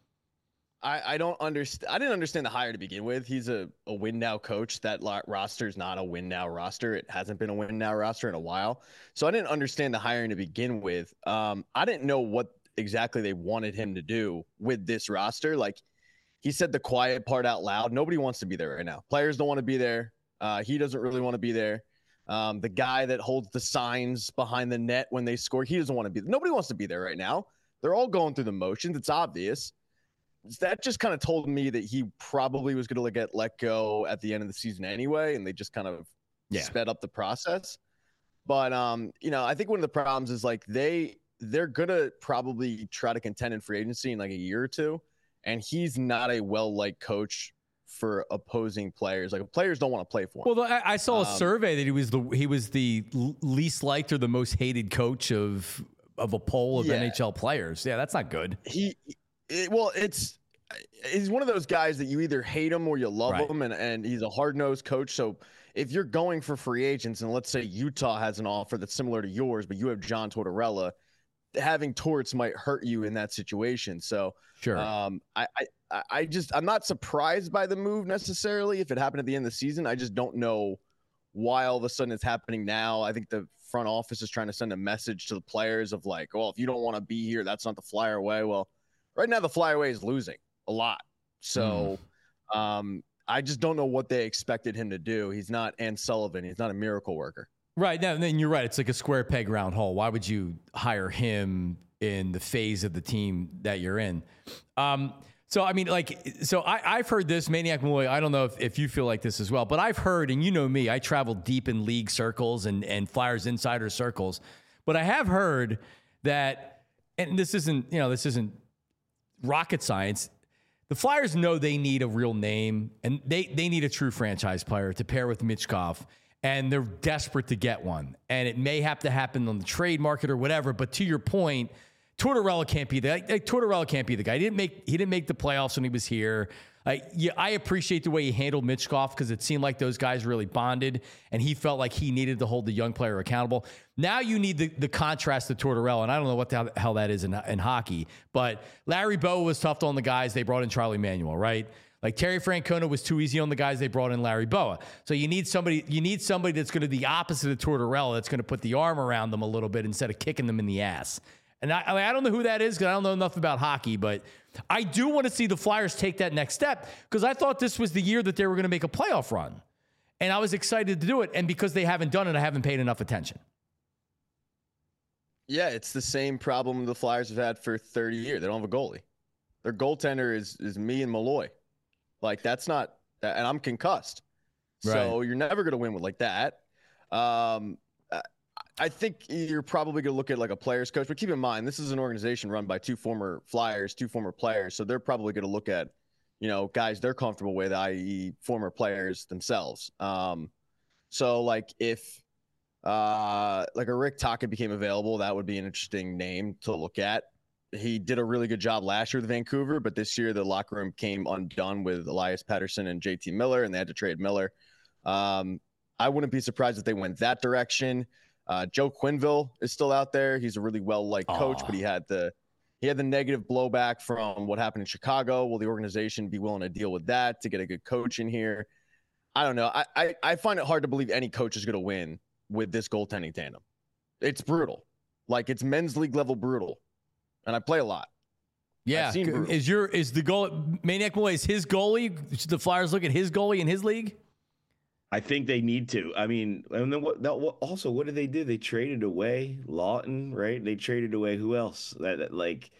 I, I don't understand. I didn't understand the hire to begin with. He's a, a win now coach. That lo- roster is not a win now roster. It hasn't been a win now roster in a while. So I didn't understand the hiring to begin with. Um, I didn't know what exactly they wanted him to do with this roster. Like he said the quiet part out loud. Nobody wants to be there right now. Players don't want to be there. Uh, he doesn't really want to be there. Um, the guy that holds the signs behind the net when they score, he doesn't want to be there. Nobody wants to be there right now. They're all going through the motions. It's obvious. That just kind of told me that he probably was going to get let go at the end of the season anyway, and they just kind of Yeah. sped up the process. But um, you know, I think one of the problems is like they they're gonna probably try to contend in free agency in like a year or two, and he's not a well-liked coach for opposing players. Like players don't want to play for him. Well, I, I saw a Um, survey that he was the he was the l- least liked or the most hated coach of of a poll of Yeah. N H L players. Yeah, that's not good. he it, well it's he's one of those guys that you either hate him or you love Right. him, and, and he's a hard-nosed coach. So if you're going for free agents, and let's say Utah has an offer that's similar to yours, but you have John Tortorella, having Torts might hurt you in that situation. So Sure. um I, I I just I'm not surprised by the move necessarily if it happened at the end of the season. I just don't know why all of a sudden it's happening now. I think the front office is trying to send a message to the players of like, well, if you don't want to be here, that's not the Flyer way. Well, right now the Flyer way is losing a lot. So um, I just don't know what they expected him to do. He's not Ann Sullivan. He's not a miracle worker. Right. Now, then you're right. It's like a square peg round hole. Why would you hire him in the phase of the team that you're in? Um, so, I mean, like, so I, I've heard this, Maniac Malloy. I don't know if, if you feel like this as well, but I've heard, and you know me, I travel deep in league circles and, and Flyers insider circles, but I have heard that, and this isn't, you know, this isn't rocket science. The Flyers know they need a real name, and they, they need a true franchise player to pair with Michkov, and they're desperate to get one. And it may have to happen on the trade market or whatever, but to your point, Tortorella can't be the like, Tortorella can't be the guy. He didn't make he didn't make the playoffs when he was here. Like, yeah, I appreciate the way he handled Michkov because it seemed like those guys really bonded, and he felt like he needed to hold the young player accountable. Now you need the, the contrast to Tortorella, and I don't know what the hell that is in, in hockey, but Larry Bowa was tough on the guys. They brought in Charlie Manuel, right? Like Terry Francona was too easy on the guys. They brought in Larry Bowa. So you need somebody. You need somebody that's going to be the opposite of Tortorella. That's going to put the arm around them a little bit instead of kicking them in the ass. And I, I, mean, I don't know who that is because I don't know enough about hockey, but I do want to see the Flyers take that next step because I thought this was the year that they were going to make a playoff run. And I was excited to do it. And because they haven't done it, I haven't paid enough attention. Yeah, it's the same problem the Flyers have had for thirty years. They don't have a goalie. Their goaltender is is me and Malloy. Like that's not, and I'm concussed. So Right. you're never going to win with like that. Um, I think you're probably going to look at like a player's coach, but keep in mind, this is an organization run by two former Flyers, two former players. So they're probably going to look at, you know, guys they're comfortable with, that is former players themselves. Um, so like if uh, like a Rick Tocchet became available, that would be an interesting name to look at. He did a really good job last year with Vancouver, but this year the locker room came undone with Elias Pettersson and J T Miller, and they had to trade Miller. Um, I wouldn't be surprised if they went that direction. Uh, Joe Quenneville is still out there. He's a really well-liked coach, but he had the he had the negative blowback from what happened in Chicago. Will the organization be willing to deal with that to get a good coach in here? I don't know. I I, I find it hard to believe any coach is going to win with this goaltending tandem. It's brutal. Like it's men's league level brutal. And I play a lot. Yeah. Is your is the goal Maniac Malloy is his goalie? Should the Flyers look at his goalie in his league? I think they need to. I mean, and then what, what? Also, what did they do? They traded away Lawton, right? They traded away who else? That, that like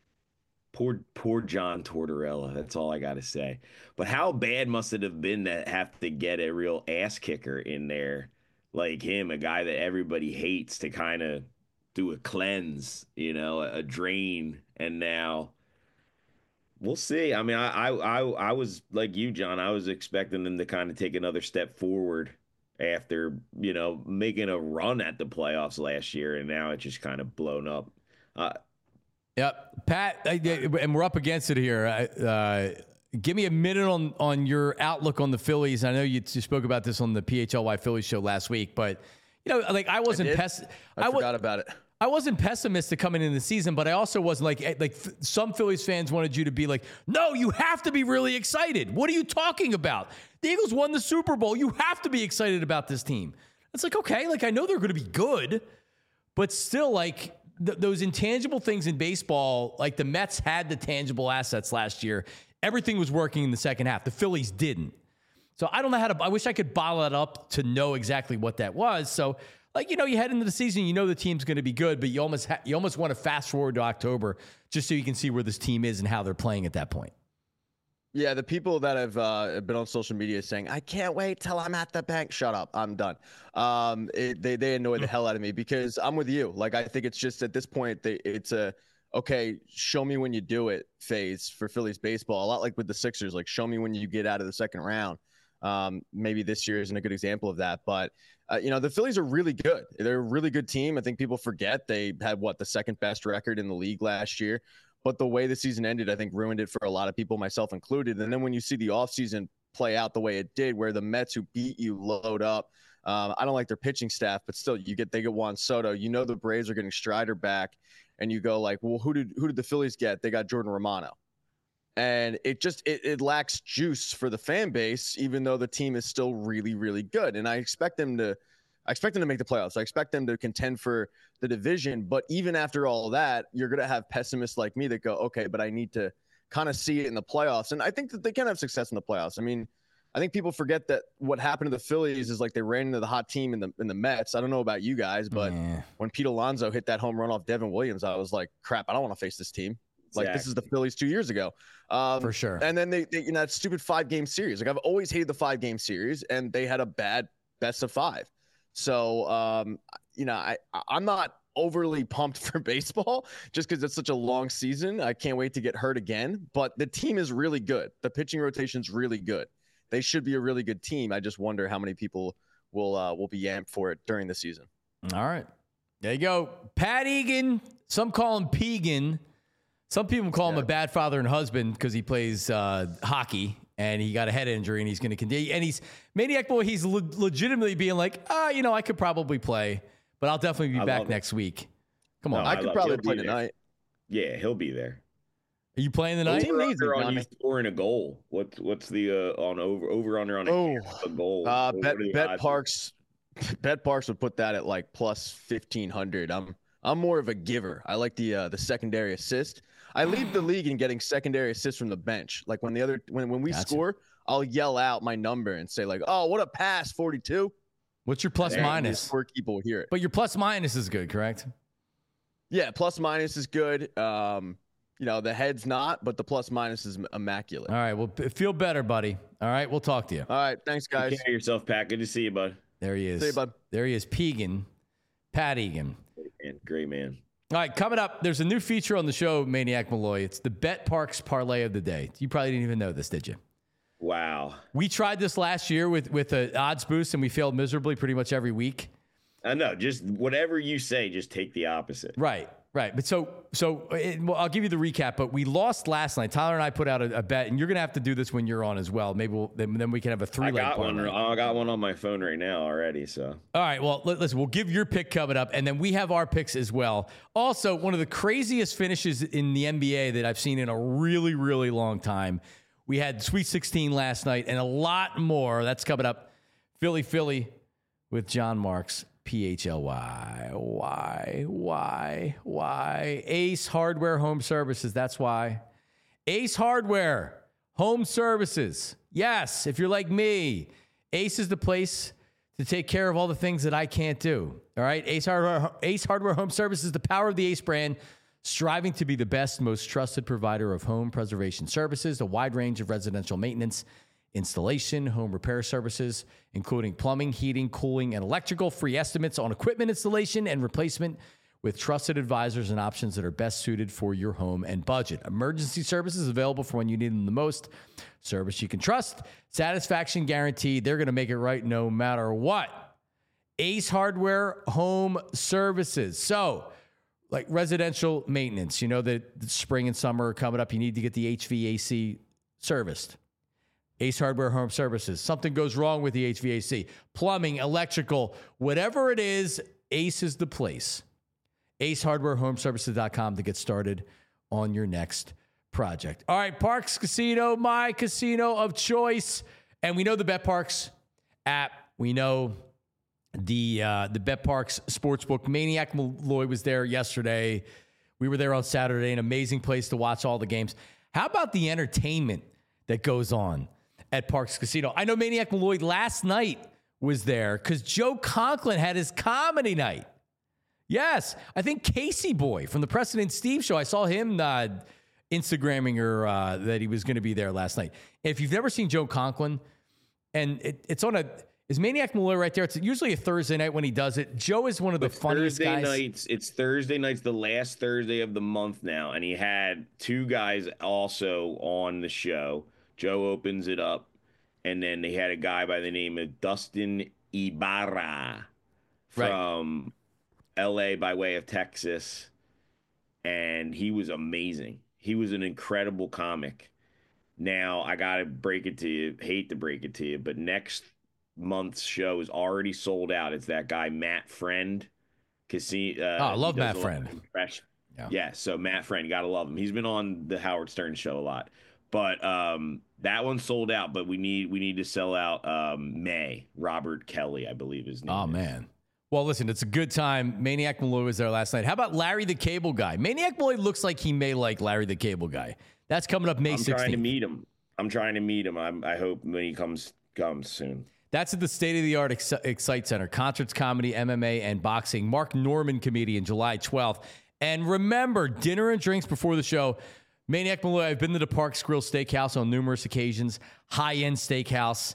poor, poor John Tortorella. That's all I got to say. But how bad must it have been to have to get a real ass kicker in there like him, a guy that everybody hates, to kind of do a cleanse, you know, a, a drain, and now. We'll see. I mean, I, I I I was like you, John. I was expecting them to kind of take another step forward after, you know, making a run at the playoffs last year, and now it's just kind of blown up. Uh, yep, Pat, I, and we're up against it here. Uh, give me a minute on on your outlook on the Phillies. I know you, you spoke about this on the P H L Y Phillies show last week, but you know, like I wasn't. I, pes- I, I forgot w- about it. I wasn't pessimistic coming into the season, but I also wasn't like, like some Phillies fans wanted you to be like, no, you have to be really excited. What are you talking about? The Eagles won the Super Bowl. You have to be excited about this team. It's like, okay, like I know they're going to be good, but still like th- those intangible things in baseball, like the Mets had the tangible assets last year. Everything was working in the second half. The Phillies didn't. So I don't know how to, I wish I could bottle that up to know exactly what that was. So like, you know, you head into the season, you know the team's going to be good, but you almost ha- you almost want to fast forward to October just so you can see where this team is and how they're playing at that point. Yeah, the people that have uh, been on social media saying, I can't wait till I'm at the bank. Shut up. I'm done. Um, it, they, they annoy the hell out of me because I'm with you. Like, I think it's just at this point, they, it's a, okay, show me when you do it phase for Phillies baseball. A lot like with the Sixers, like show me when you get out of the second round. Um, maybe this year isn't a good example of that, but uh, you know, the Phillies are really good. They're a really good team. I think people forget they had what the second best record in the league last year, but the way the season ended, I think ruined it for a lot of people, myself included. And then when you see the offseason play out the way it did, where the Mets who beat you load up, um, I don't like their pitching staff, but still you get, they get Juan Soto, you know, the Braves are getting Strider back and you go like, well, who did, who did the Phillies get? They got Jordan Romano. And it just it, it lacks juice for the fan base, even though the team is still really, really good. And I expect them to I expect them to make the playoffs. I expect them to contend for the division. But even after all that, you're going to have pessimists like me that go, okay, but I need to kind of see it in the playoffs. And I think that they can have success in the playoffs. I mean, I think people forget that what happened to the Phillies is like they ran into the hot team in the in the Mets. I don't know about you guys, but yeah. When Pete Alonso hit that home run off Devin Williams, I was like, crap, I don't want to face this team. Like, exactly. This is the Phillies two years ago. Um, For sure. And then they, they, you know, that stupid five game series. Like, I've always hated the five game series, and they had a bad best of five. So, um, you know, I, I'm not overly pumped for baseball just because it's such a long season. I can't wait to get hurt again. But the team is really good. The pitching rotation's really good. They should be a really good team. I just wonder how many people will uh, will be amped for it during the season. All right. There you go. Pat Egan. Some call him Pegan. Some people call him yeah. a bad father and husband because he plays uh, hockey and he got a head injury and he's going to continue. And he's Maniac Boy. He's le- legitimately being like, ah, oh, you know, I could probably play, but I'll definitely be I back next week. Come on, no, I, I could probably he'll play tonight. Yeah, he'll be there. Are you playing tonight? Over under on you scoring a goal. What's what's the uh, on over over under on a, oh, a goal? Uh, bet Bet Parks, Bet Parks would put that at like plus fifteen hundred. I'm I'm more of a giver. I like the uh, the secondary assist. I lead the league in getting secondary assists from the bench. Like when the other when when we gotcha. score, I'll yell out my number and say like, "Oh, what a pass, forty-two." What's your plus minus? Four people will hear it. But your plus minus is good, correct? Yeah, plus minus is good. Um, you know, the head's not, but the plus minus is immaculate. All right. Well, feel better, buddy. All right. We'll talk to you. All right. Thanks, guys. Take care of yourself, Pat. Good to see you, bud. There he is. See you, bud. There he is. Pegan. Pat Egan. Great man. Great man. All right. Coming up, there's a new feature on the show, Maniac Malloy. It's the Bet Parks Parlay of the Day. You probably didn't even know this, did you? Wow. We tried this last year with, with an odds boost, and we failed miserably pretty much every week. I know. Just whatever you say, just take the opposite. Right. Right. But so, so it, well, I'll give you the recap, but we lost last night. Tyler and I put out a, a bet, and you're going to have to do this when you're on as well. Maybe we'll, then, then we can have a three leg I got parlay. one. I got one on my phone right now already. So, all right. Well, listen, we'll give your pick coming up, and then we have our picks as well. Also, one of the craziest finishes in the N B A that I've seen in a really, really long time. We had Sweet sixteen last night and a lot more. That's coming up. Philly, Philly with John Marks. P H L Y. Why? Why? Why? Ace Hardware Home Services. That's why. Ace Hardware Home Services. Yes, if you're like me, Ace is the place to take care of all the things that I can't do. All right? Ace Hardware, Ace Hardware Home Services, the power of the Ace brand, striving to be the best, most trusted provider of home preservation services, a wide range of residential maintenance, installation, home repair services, including plumbing, heating, cooling, and electrical, free estimates on equipment installation and replacement with trusted advisors and options that are best suited for your home and budget. Emergency services available for when you need them the most. Service you can trust. Satisfaction guaranteed. They're going to make it right no matter what. Ace Hardware Home Services. So, like residential maintenance, you know that the spring and summer are coming up. You need to get the H V A C serviced. Ace Hardware Home Services. Something goes wrong with the H V A C. Plumbing, electrical, whatever it is, Ace is the place. ace hardware home services dot com to get started on your next project. All right, Parks Casino, my casino of choice. And we know the BetParks app. We know the uh, the BetParks Sportsbook. Maniac Malloy was there yesterday. We were there on Saturday. An amazing place to watch all the games. How about the entertainment that goes on at Parks Casino? I know Maniac Malloy last night was there because Joe Conklin had his comedy night. Yes, I think Casey Boy from the Preston and Steve show, I saw him uh, Instagramming her uh, that he was going to be there last night. If you've never seen Joe Conklin, and it, it's on a, is Maniac Malloy right there? It's usually a Thursday night when he does it. Joe is one of the it's funniest Thursday guys. Nights, it's Thursday nights, the last Thursday of the month now, and he had two guys also on the show. Joe opens it up, and then they had a guy by the name of Dustin Ibarra from right. L A by way of Texas, and he was amazing. He was an incredible comic. Now, I got to break it to you, hate to break it to you, but next month's show is already sold out. It's that guy, Matt Friend. Casino, uh, oh, I love Matt Friend. Yeah. yeah, so Matt Friend, you got to love him. He's been on the Howard Stern show a lot. But um, that one sold out, but we need we need to sell out um, May. Robert Kelly, I believe his name Oh, is. man. Well, listen, it's a good time. Maniac Malloy was there last night. How about Larry the Cable Guy? Maniac Malloy looks like he may like Larry the Cable Guy. That's coming up May I'm sixteenth. trying to meet him. I'm trying to meet him. I'm, I hope when he comes comes soon. That's at the state-of-the-art Ex- Excite Center. Concerts, comedy, M M A, and boxing. Mark Norman comedian, July twelfth. And remember, dinner and drinks before the show. Maniac Malloy, I've been to the Parks Grill Steakhouse on numerous occasions. High-end steakhouse,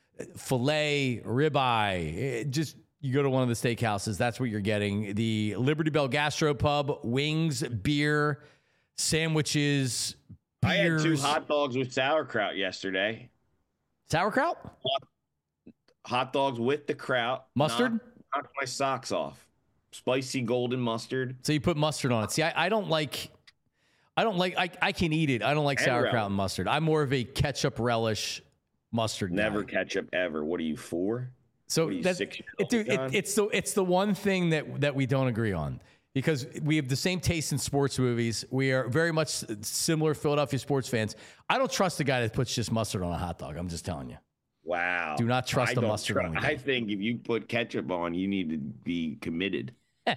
filet, ribeye. Just, you go to one of the steakhouses, that's what you're getting. The Liberty Bell Gastropub, wings, beer, sandwiches, beers. I had two hot dogs with sauerkraut yesterday. Sauerkraut? Hot dogs with the kraut. Mustard? Knocked, knocked my socks off. Spicy golden mustard. So you put mustard on it. See, I, I don't like... I don't like, I, I can eat it. I don't like and sauerkraut relish. and mustard. I'm more of a ketchup relish mustard Never guy. ketchup ever. What are you for? So you, that's, it, dude, it, it's the, it's the one thing that, that we don't agree on because we have the same taste in sports movies. We are very much similar Philadelphia sports fans. I don't trust the guy that puts just mustard on a hot dog. I'm just telling you. Wow. Do not trust I the mustard tr- on the I think if you put ketchup on, you need to be committed.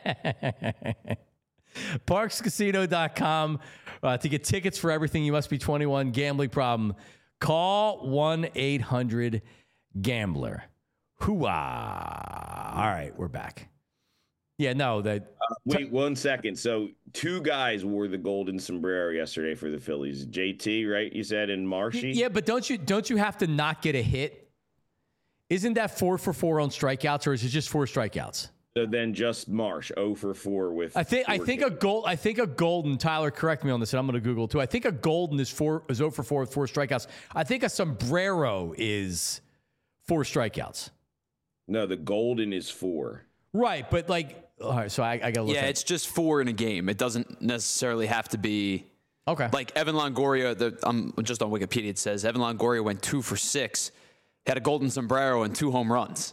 parks casino dot com uh, to get tickets for everything. You must be twenty-one. Gambling problem. Call one eight hundred gambler. Hooah. All right, we're back. Yeah, no, that. Uh, wait one second. So two guys wore the golden sombrero yesterday for the Phillies. J T, right? You said, and Marshy. Yeah, but don't you don't you have to not get a hit? Isn't that four for four on strikeouts, or is it just four strikeouts? So then just Marsh, zero for four with. I think I think kids. a gold. I think a golden. Tyler, correct me on this, and I'm going to Google too. I think a golden is four is zero for four with four strikeouts. I think a sombrero is four strikeouts. No, the golden is four. Right, but like, all right. So I, I got to look. Yeah, at it's just four in a game. It doesn't necessarily have to be. Okay. Like Evan Longoria, the, I'm just on Wikipedia. It says Evan Longoria went two for six, had a golden sombrero and two home runs.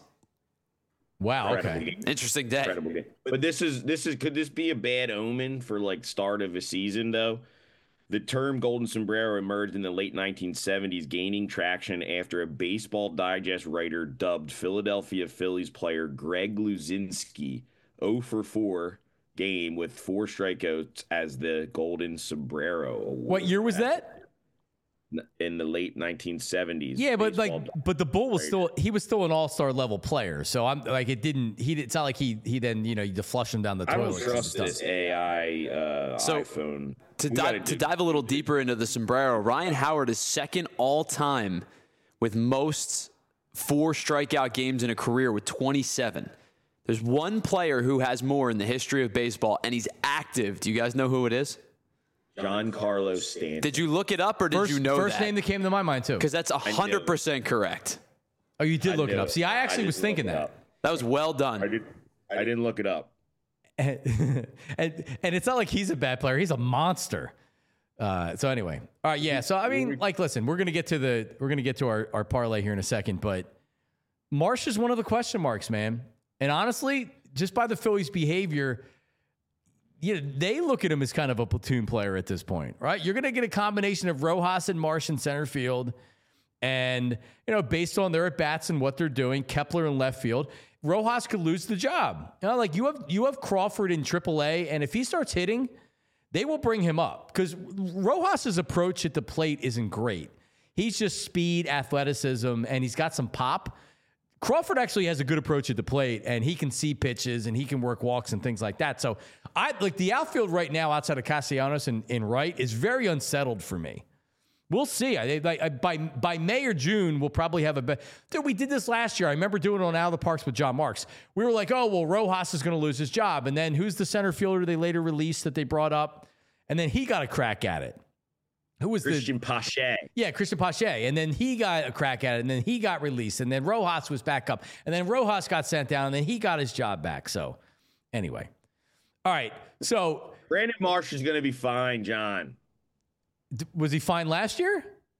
Wow. Incredible Okay. game. Interesting day. Incredible game. But this is this is could this be a bad omen for like start of a season though? The term golden sombrero emerged in the late nineteen seventies, gaining traction after a Baseball Digest writer dubbed Philadelphia Phillies player Greg Luzinski zero for four game with four strikeouts as the golden sombrero award. What year was that? In the late nineteen seventies. Yeah, but Baseball like, but the Bull was still he was still an all star level player. So I'm like, it didn't. He it's not like he he then you know you flush him down the I toilet. don't trust this A I uh, So, iPhone. To, We di- gotta to do- dive a little deeper into the sombrero, Ryan Howard is second all time with most four strikeout games in a career with twenty-seven. There's one player who has more in the history of baseball, and he's active. Do you guys know who it is? Giancarlo Stanton. Did you look it up, or did First, you know first that? name that came to my mind too. Because that's one hundred percent correct. Oh, you did I look it knew up. See, I actually I was didn't thinking look it that. up. That was well done. I did. I didn't look it up. and, and and it's not like he's a bad player. He's a monster. Uh, so anyway, all right, yeah. So I mean, like, listen, we're gonna get to the we're gonna get to our, our parlay here in a second, but Marsh is one of the question marks, man. And honestly, just by the Phillies' behavior, you know, they look at him as kind of a platoon player at this point, right? You're gonna get a combination of Rojas and Marsh in center field, and you know, based on their at bats and what they're doing, Kepler in left field. Rojas could lose the job. You know, like you have you have Crawford in triple A, and if he starts hitting, they will bring him up because Rojas's approach at the plate isn't great. He's just speed, athleticism, and he's got some pop. Crawford actually has a good approach at the plate, and he can see pitches and he can work walks and things like that. So I like the outfield right now outside of Castellanos and, and Wright is very unsettled for me. We'll see. I, I, I, by by May or June, we'll probably have a better. Dude, we did this last year. I remember doing it on Out of the Parks with John Marks. We were like, oh, well, Rojas is going to lose his job. And then who's the center fielder they later released that they brought up? And then he got a crack at it. Who was Christian the Pache. Yeah, Christian Pache. And then he got a crack at it. And then he got released. And then Rojas was back up. And then Rojas got sent down. And then he got his job back. So anyway. All right. So Brandon Marsh is going to be fine, John. d- was he fine last year?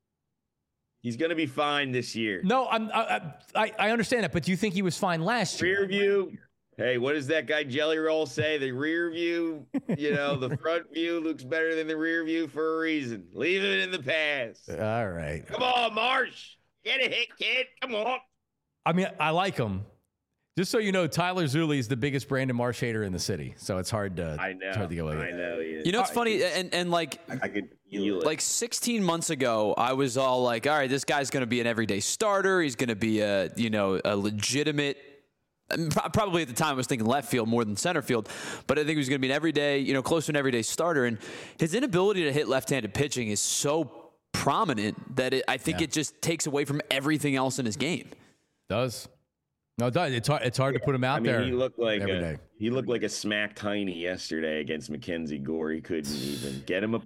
He's going to be fine this year. No, I'm, I, I I understand that. But do you think he was fine last year? Rear view. Hey, what does that guy Jelly Roll say? The rear view, you know, the front view looks better than the rear view for a reason. Leave it in the past. All right. Come on, Marsh. Get a hit, kid. Come on. I mean, I like him. Just so you know, Tyler Zulli is the biggest Brandon Marsh hater in the city. So it's hard to I know. it's hard to go with I it. know. He is. You know, it's funny, and, and like, I could feel it. like sixteen months ago, I was all like, all right, this guy's going to be an everyday starter. He's going to be a, you know, a legitimate, probably at the time I was thinking left field more than center field, but I think he was going to be an everyday, you know, close to an everyday starter. And his inability to hit left-handed pitching is so prominent that it, I think Yeah. it just takes away from everything else in his game. Does. No, it does. It's hard, it's hard to put him out I mean, there. he looked like every a, day. he looked like a smack tiny yesterday against Mackenzie Gore. He couldn't even get him a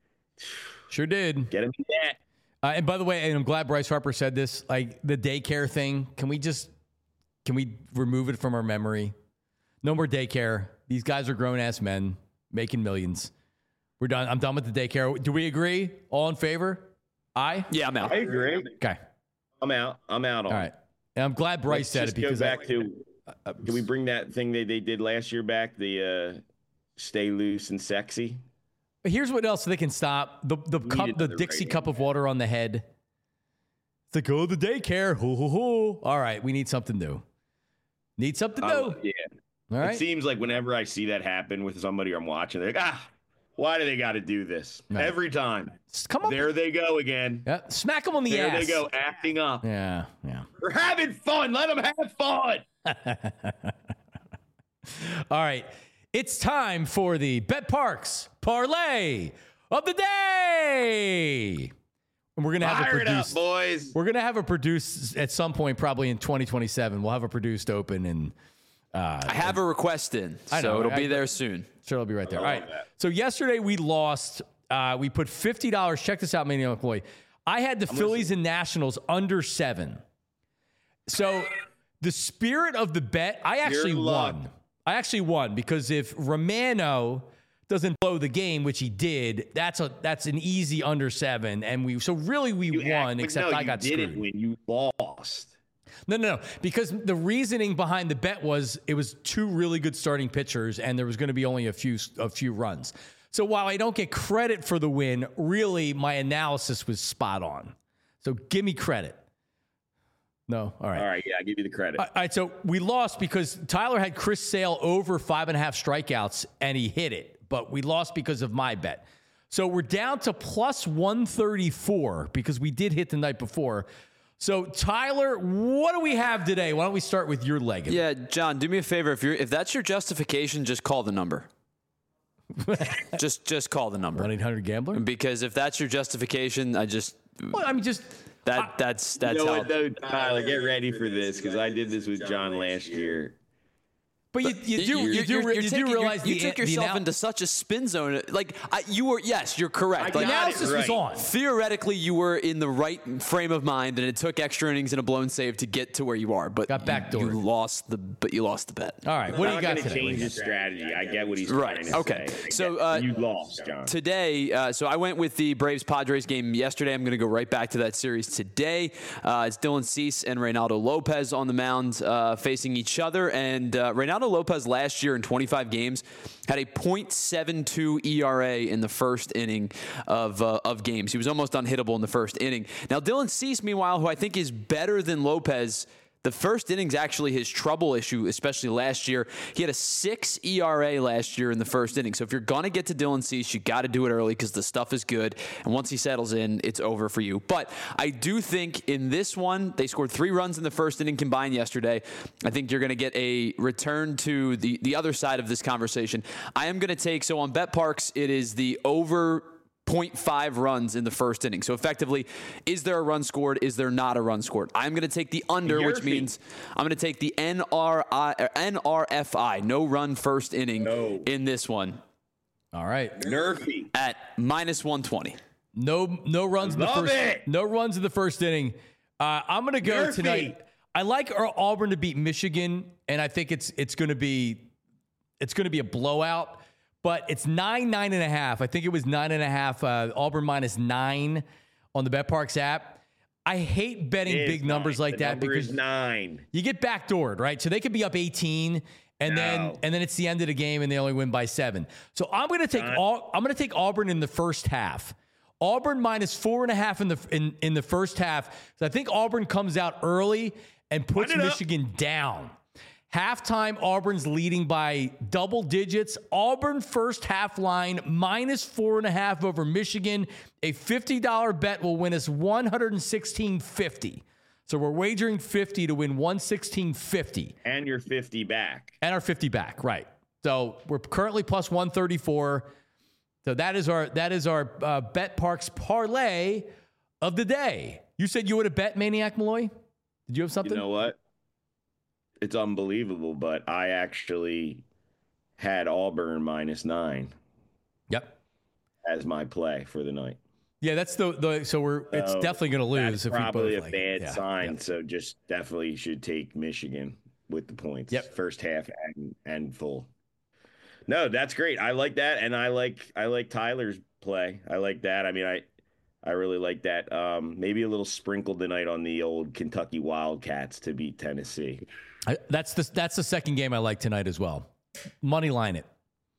Sure did. get him a net. Uh, and by the way, and I'm glad Bryce Harper said this, like the daycare thing, can we just, can we remove it from our memory? No more daycare. These guys are grown-ass men making millions. We're done. I'm done with the daycare. Do we agree? All in favor? Aye? Yeah, I'm out. I agree. Okay. I'm out. I'm out on. All it. right. And I'm glad Bryce Let's said just it because go I- back to. uh, Can we bring that thing they, they did last year back? The uh, stay loose and sexy. here's what else they can stop. The the We cup, needed the the Dixie right cup of water on the head. It's like, oh, the daycare. Hoo, hoo, hoo. All right. We need something new. Need something new. Uh, yeah. All right. It seems like whenever I see that happen with somebody I'm watching, they're like, ah, why do they got to do this Right. every time? Just come on. There they go again. Yeah. Smack them on the There ass. they go, acting up. Yeah. Yeah. We're having fun. Let them have fun. All right. It's time for the Bet Parks Parlay of the Day. And we're going to have Fire it produced. it up, boys. We're going to have it produced at some point, probably in twenty twenty-seven. We'll have it produced open and uh, I have a request in, I know, so it'll I- be there soon. sure it'll be right there. All love right. that. So yesterday we lost. Uh, we put fifty dollars. Check this out, Maniac McCoy. I had the Phillies and Nationals under seven. So the spirit of the bet, I actually Your luck. won. I actually won because if Romano doesn't blow the game, which he did, that's a that's an easy under seven, and we so really we You won. act- but except no, I you got didn't screwed. win. You lost. No, no, no. Because the reasoning behind the bet was it was two really good starting pitchers, and there was going to be only a few a few runs. So while I don't get credit for the win, really my analysis was spot on. So give me credit. No, all right. All right, yeah, I give you the credit. All right, so we lost because Tyler had Chris Sale over five and a half strikeouts, and he hit it. But we lost because of my bet. So we're down to plus one thirty-four because we did hit the night before. So Tyler, what do we have today? Why don't we start with your leg? Yeah, John, do me a favor. If you're if that's your justification, just call the number. just just call the number. one eight hundred gambler? Because if that's your justification, I just Well, I mean, just that that's that's you know how. what, though, Tyler, get ready for this because I did this with John last year. But you, you do you, You're- do you're- re- you're you taking- do you're- realize you the, took the yourself anal- into such a spin zone. Like I, you were, yes, you're correct. I Like the got it analysis was right. on. theoretically, you were in the right frame of mind, and it took extra innings and a blown save to get to where you are. But Got you- backdoored. You lost the, but you lost the bet. All right, what do you not got going to today? What do change you his strategy. I get what he's Right, trying to okay. say. I So, get- uh, you lost, John. Today, uh, so I went with the Braves Padres game yesterday. I'm going to go right back to that series today. Uh, it's Dylan Cease and Reynaldo Lopez on the mound uh, facing each other. And uh, Reynaldo Lopez last year in twenty-five games had a point seven two E R A in the first inning of uh, of games. He was almost unhittable in the first inning. Now, Dylan Cease, meanwhile, who I think is better than Lopez. The first inning's actually his trouble issue, especially last year. He had a six E R A last year in the first inning. So if you're going to get to Dylan Cease, you got to do it early because the stuff is good. And once he settles in, it's over for you. But I do think in this one, they scored three runs in the first inning combined yesterday. I think you're going to get a return to the, the other side of this conversation. I am going to take, so on Bet Parks, it is the over zero point five runs in the first inning. So effectively, is there a run scored? Is there not a run scored? I'm going to take the under, Your which feet. means I'm going to take the N R I, or N R F I, no run first inning No. in this one All right. Nerfy. at minus one twenty. No, no runs in the Love first. it. No runs in the first inning. Uh, I'm going to go Murphy. tonight. I like our Auburn to beat Michigan, and I think it's it's going to be it's going to be a blowout. But it's nine nine and a half. I think it was nine and a half. Uh, Auburn minus nine on the BetParks app. I hate betting It is big numbers nine. like The that number because is nine. you get backdoored, right? So they could be up eighteen, and then No. and then it's the end of the game, and they only win by seven. So I'm going to take Not- all. I'm going to take Auburn in the first half. Auburn minus four and a half in the in, in the first half. So I think Auburn comes out early and puts Line it up. Michigan down. Halftime, Auburn's leading by double digits. Auburn first half line minus four and a half over Michigan. A fifty dollars bet will win us one hundred sixteen fifty. So we're wagering fifty to win one sixteen fifty And you're fifty back. and our fifty back, right? So we're currently plus one thirty-four. So that is our that is our uh, Bet Parks parlay of the day. You said you would have bet Maniac Malloy. Did you have something? You know what? It's unbelievable, but I actually had Auburn minus nine Yep. as my play for the night. Yeah, that's the the. So we're it's So definitely going to lose That's if we probably both a like bad it. Yeah, sign. yep. So just definitely should take Michigan with the points. Yep. First half and, and full. No, that's great. I like that, and I like I like Tyler's play. I like that. I mean, I I really like that. Um, maybe a little sprinkle tonight on the old Kentucky Wildcats to beat Tennessee. I, that's the that's the second game I like tonight as well. Money line it.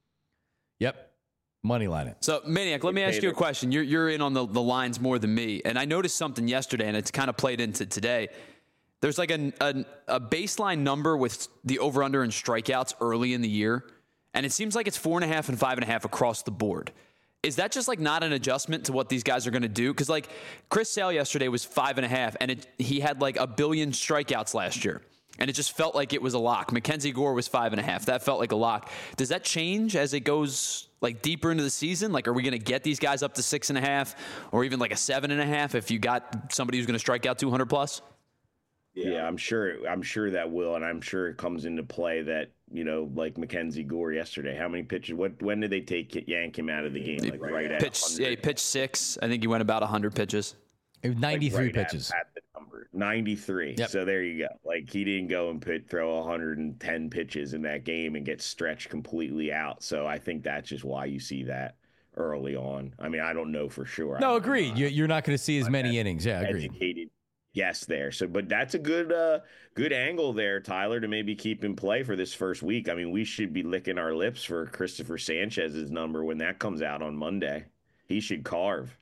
Yep. Money line it. So, Maniac, let me ask you a question. You're, you're in on the, the lines more than me. And I noticed something yesterday, and it's kind of played into today. There's like a, a, a baseline number with the over-under and strikeouts early in the year. And it seems like it's four and a half and five and a half across the board. Is that just like not an adjustment to what these guys are going to do? Because like Chris Sale yesterday was five and a half, and it, he had like a billion strikeouts last year. and it just felt like it was a lock. Mackenzie Gore was five and a half. That felt like a lock. Does that change as it goes like deeper into the season? Like, are we going to get these guys up to six and a half or even like a seven and a half if you got somebody who's going to strike out two hundred plus? Yeah, I'm sure. I'm sure that will, and I'm sure it comes into play that, you know, like Mackenzie Gore yesterday. How many pitches? What? When did they take yank him out of the game? Like right at pitch. Yeah, he pitched six. I think he went about a hundred pitches. It was ninety-three like right pitches. At, at the number ninety-three. Yep. So there you go. Like he didn't go and put throw one hundred ten pitches in that game and get stretched completely out. So I think that's just why you see that early on. I mean, I don't know for sure. No, I'm agreed. not, you, you're not going to see as many ed- innings. Yeah, agreed. Educated guess there. So, but that's a good, uh, good angle there, Tyler, to maybe keep in play for this first week. I mean, we should be licking our lips for Christopher Sanchez's number when that comes out on Monday. He should carve.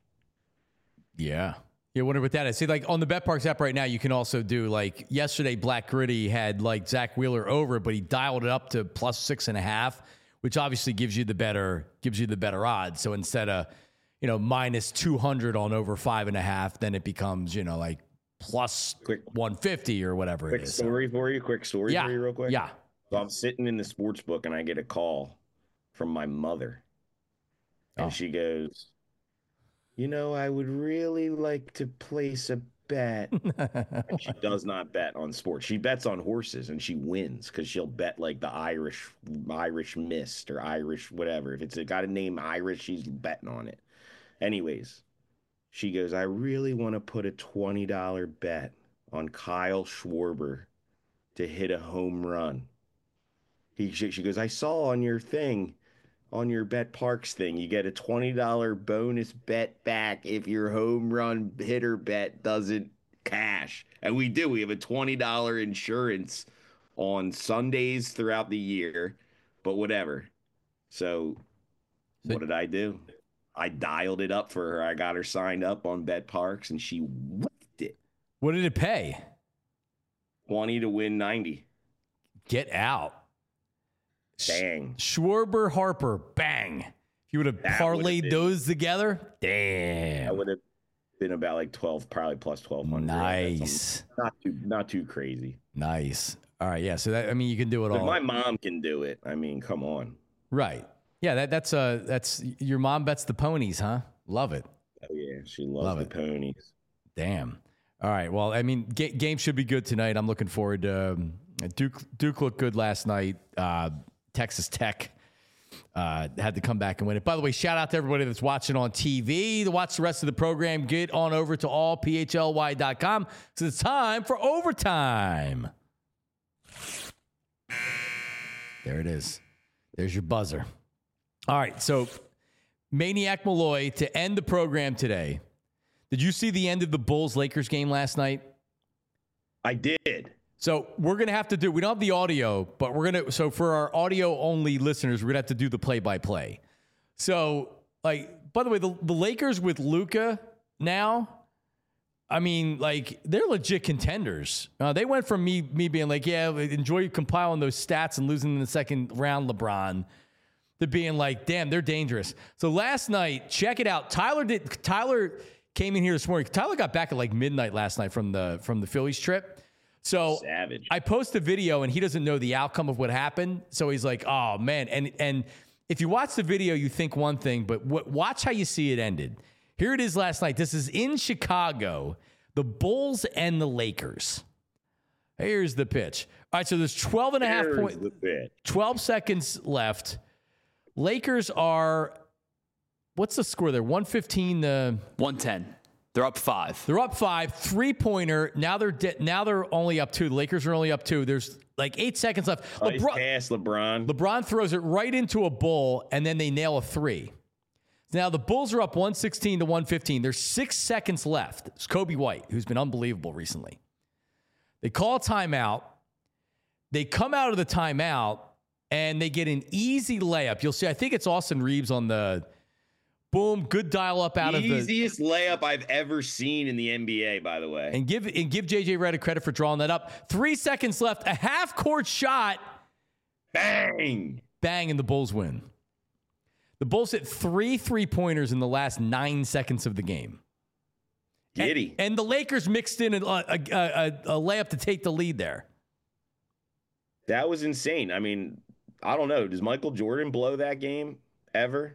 Yeah. Yeah, wonder what that is. See, like on the BetParks app right now, you can also do like yesterday, Black Gritty had like Zach Wheeler over, but he dialed it up to plus six and a half, which obviously gives you the better gives you the better odds. So instead of, you know, minus two hundred on over five and a half, then it becomes, you know, like plus Quick one fifty or whatever quick it is. story for you. Quick story Yeah. for you, real quick. Yeah. So I'm sitting in the sports book and I get a call from my mother, and Oh. she goes, "You know, I would really like to place a bet." And she does not bet on sports. She bets on horses, and she wins because she'll bet like the Irish Irish Mist or Irish whatever. If it's got a name Irish, she's betting on it. Anyways, she goes, "I really want to put a twenty dollar bet on Kyle Schwarber to hit a home run." He she, she goes, "I saw on your thing, on your BetParks thing, you get a twenty dollar bonus bet back if your home run hitter bet doesn't cash." And we do. We have a twenty dollar insurance on Sundays throughout the year, but whatever. So, So- what did I do? I dialed it up for her. I got her signed up on BetParks, and she whipped it. What did it pay? twenty to win ninety. Get out. Dang. Schwarber, Harper, bang. If you would have That would've parlayed been- those together, That damn. would have been about like twelve, probably plus twelve hundred. Nice. Not too, not too crazy. Nice. All right. Yeah. So that, I mean, you can do it But all. my mom can do it. I mean, come on. Right. Yeah. That, that's, uh, that's your mom bets the ponies, huh? Love it. Oh yeah, she loves Love the it. ponies. Damn. All right. Well, I mean, ga- game should be good tonight. I'm looking forward to um, Duke. Duke looked good last night. Uh, Texas Tech uh, had to come back and win it. By the way, shout out to everybody that's watching on T V. To watch the rest of the program, get on over to all p h l y dot com. So it's time for overtime. There it is. There's your buzzer. All right. So Maniac Malloy to end the program today. Did you see the end of the Bulls-Lakers game last night? I did. So we're going to have to do, we don't have the audio, but we're going to, so for our audio only listeners, we're going to have to do the play by play. So, like, by the way, the, the Lakers with Luka now, I mean, like, they're legit contenders. Uh, they went from me, me being like, yeah, enjoy compiling those stats and losing in the second round, LeBron, to being like, damn, they're dangerous. So last night, check it out. Tyler did, Tyler came in here this morning. Tyler got back at like midnight last night from the, from the Phillies trip. So Savage. I post a video and he doesn't know the outcome of what happened. So he's like, oh man. And, and if you watch the video, you think one thing, but w- watch how you see it ended. Here it is last night. This is in Chicago, the Bulls and the Lakers. Here's the pitch. All right. So there's twelve and a half Here's points, the bit. twelve seconds left. Lakers are, what's the score there? one fifteen to one ten. They're up five. They're up five, three pointer. Now they're de- now they're only up two. The Lakers are only up two. There's like eight seconds left. Nice LeBron, pass, LeBron. LeBron throws it right into a bull, and then they nail a three. Now the Bulls are up one sixteen to one fifteen. There's six seconds left. It's Kobe White, who's been unbelievable recently. They call a timeout. They come out of the timeout, and they get an easy layup. You'll see, I think it's Austin Reeves on the boom, good dial up out of the Easiest layup I've ever seen in the N B A, by the way. and give and give J J Redick credit for drawing that up. Three seconds left, a half court shot, Bang! bang, and the Bulls win. The Bulls hit three three pointers in the last nine seconds of the game. Giddy. And, and the Lakers mixed in a, a, a, a layup to take the lead there. That was insane. I mean, I don't know. Does Michael Jordan blow that game ever?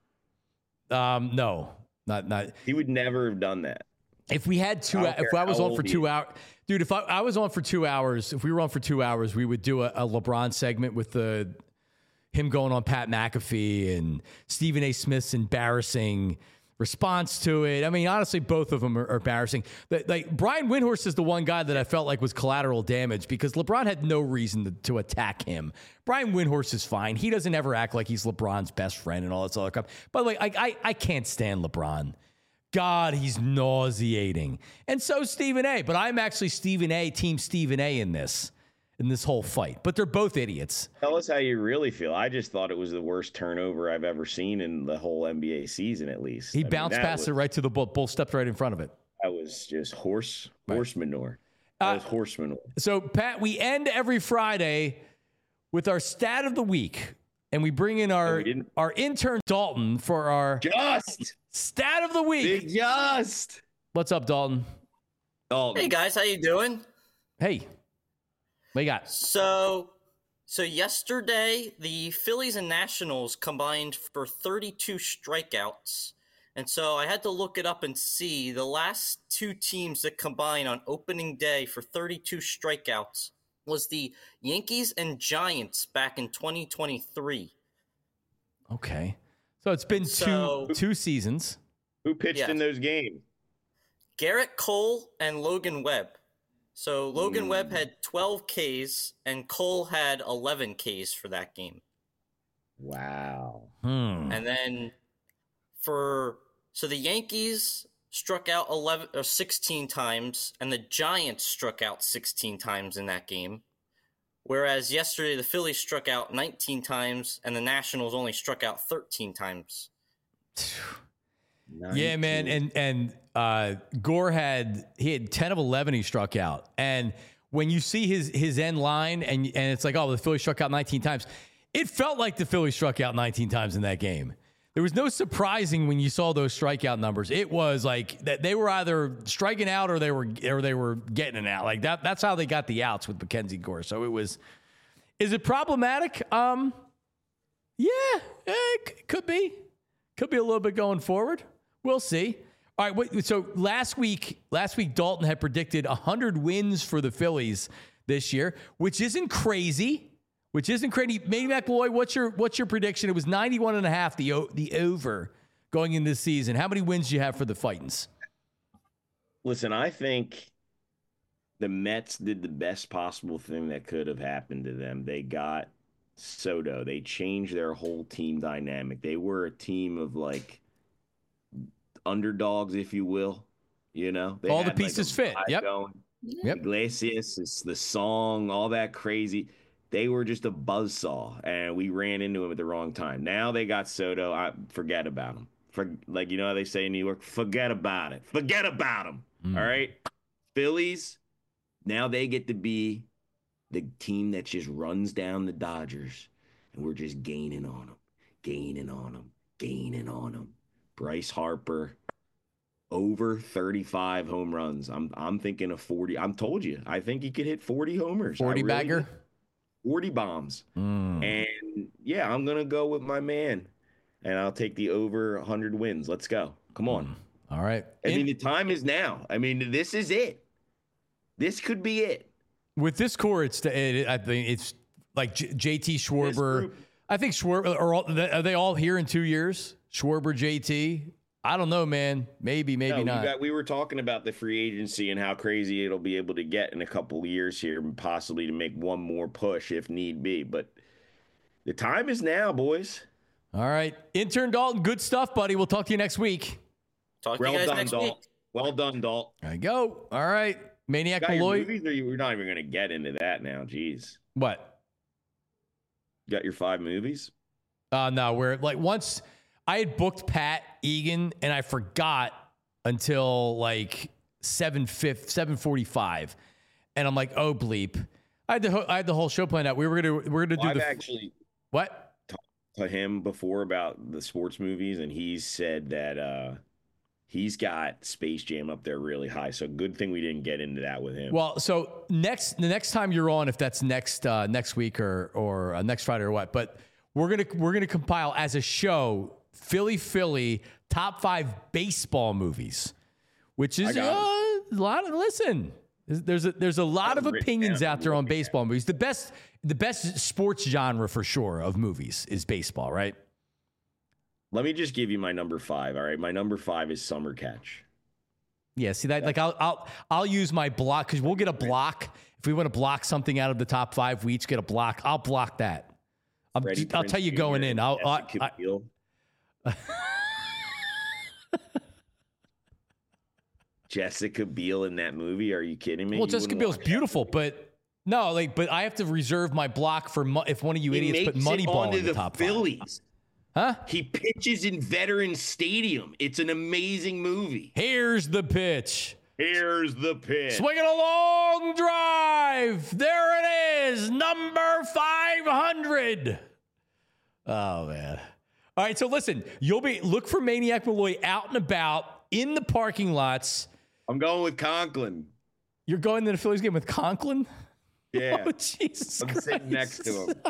Um, no, not not. He would never have done that. If we had two, I don't if care I was how on old for he two is. hours, dude, if I, I was on for two hours, if we were on for two hours, we would do a, a LeBron segment with the him going on Pat McAfee and Stephen A. Smith's embarrassing response to it. I mean, honestly, both of them are, are embarrassing. The, like Brian Windhorst is the one guy that I felt like was collateral damage because LeBron had no reason to, to attack him. Brian Windhorst is fine. He doesn't ever act like he's LeBron's best friend and all this other crap. By the way, I, I, I can't stand LeBron. God, he's nauseating. And so Stephen A. But I'm actually Stephen A. Team Stephen A. in this, in this whole fight. But they're both idiots. Tell us how you really feel. I just thought it was the worst turnover I've ever seen in the whole N B A season, at least. He I mean, bounced that past was, it right to the bull. Bull stepped right in front of it. That was just horse horse manure. Uh, That was horse manure. So, Pat, we end every Friday with our stat of the week. And we bring in our, we didn't- our intern, Dalton, for our Just stat of the week. Big just. What's up, Dalton? Oh, Hey guys, how you doing? Hey, what you got? So, so yesterday the Phillies and Nationals combined for thirty-two strikeouts, and so I had to look it up and see the last two teams that combined on opening day for thirty-two strikeouts was the Yankees and Giants back in twenty twenty-three. Okay. So it's been So- two two seasons. who pitched Yes. in those games? Garrett Cole and Logan Webb. So Logan Mm. Webb had twelve Ks and Cole had eleven Ks for that game. Wow. Hmm. And then for so the Yankees struck out eleven or sixteen times and the Giants struck out sixteen times in that game. Whereas yesterday the Phillies struck out nineteen times and the Nationals only struck out thirteen times. Yeah, man, and and uh, Gore had he had ten of eleven he struck out, and when you see his his end line, and and it's like, oh, the Phillies struck out nineteen times, it felt like the Phillies struck out nineteen times in that game. There was no surprising when you saw those strikeout numbers. It was like that they were either striking out or they were or they were getting it out. Like that. That's how they got the outs with Mackenzie Gore. So it was. Is it problematic? Um, yeah, eh, it c- could be. Could be a little bit going forward. We'll see. All right. Wait, so last week, last week Dalton had predicted one hundred wins for the Phillies this year, which isn't crazy. Which isn't crazy. Manny McElroy, what's your what's your prediction? It was ninety-one and a half, the o- the over going into this season. How many wins do you have for the Fightins? Listen, I think the Mets did the best possible thing that could have happened to them. They got Soto. They changed their whole team dynamic. They were a team of like underdogs, if you will. You know, they All the had, like, pieces a fit. vibe Yep. going. Yep. Iglesias, it's the song, all that crazy. They were just a buzzsaw, and we ran into him at the wrong time. Now they got Soto. I forget about him. For like you know how they say in New York, forget about it. Forget about him. Mm. All right, Phillies. Now they get to be the team that just runs down the Dodgers, and we're just gaining on them, gaining on them, gaining on them. Bryce Harper. Over thirty-five home runs. I'm I'm thinking of forty. I'm told you. I think he could hit forty homers. I forty really bagger. do. forty bombs. Mm. And yeah, I'm going to go with my man. And I'll take the over one hundred wins. Let's go. Come on. All right. I In- mean, the time is now. I mean, this is it. This could be it. with this core, it's it, I think it's like J- JT Schwarber. group. I think Schwarber are, all, are they all here in two years? Schwarber, J T. I don't know, man. Maybe, maybe No, you not. got- we were talking about the free agency and how crazy it'll be able to get in a couple of years here, possibly to make one more push if need be. But the time is now, boys. All right. Intern Dalton, good stuff, buddy. We'll talk to you next week. Talk to Well you guys done, next Dalt. week. Well done, Dalt. There you go. All right. Maniac Got your Malloy. movies, or you, we're not even going to get into that now. Jeez. What? You got your five movies? Uh, no, where like once I had booked Pat Egan and I forgot until like seven fifth, seven forty five, and I'm like, oh bleep. I had the ho- I had the whole show planned out. We were gonna we are gonna do I've the actually what? talked to him before about the sports movies, and he said that uh, He's got Space Jam up there really high. So good thing we didn't get into that with him. Well, so next the next time you're on, if that's next uh, next week or or uh, next Friday or what, but we're gonna we're gonna compile as a show Philly Philly top five baseball movies, which is uh, a lot of listen. There's a there's a lot of opinions out there on baseball movies. The best the best sports genre for sure of movies is baseball, right? Let me just give you my number five. All right, my number five is Summer Catch. Yeah, see that? Like I'll I'll I'll use my block because we'll get a block if we want to block something out of the top five. We each get a block. I'll block that. I'll, just, I'll tell you going in. I'll. I, I, Jessica Biel in that movie? Are you kidding me? Well, you Jessica Biel's beautiful, but no, like, but I have to reserve my block for mo- if one of you he idiots put Moneyball in the, the top Phillies. five. Huh? He pitches in Veterans Stadium. It's an amazing movie. Here's the pitch. Here's the pitch. Swinging a long drive. There it is. Number five hundred. Oh, man. All right. So listen, you'll be, look for Maniac Malloy out and about in the parking lots. I'm going with Conklin. You're going to the Phillies game with Conklin? Yeah. Oh, Jesus I'm Christ. sitting next to him.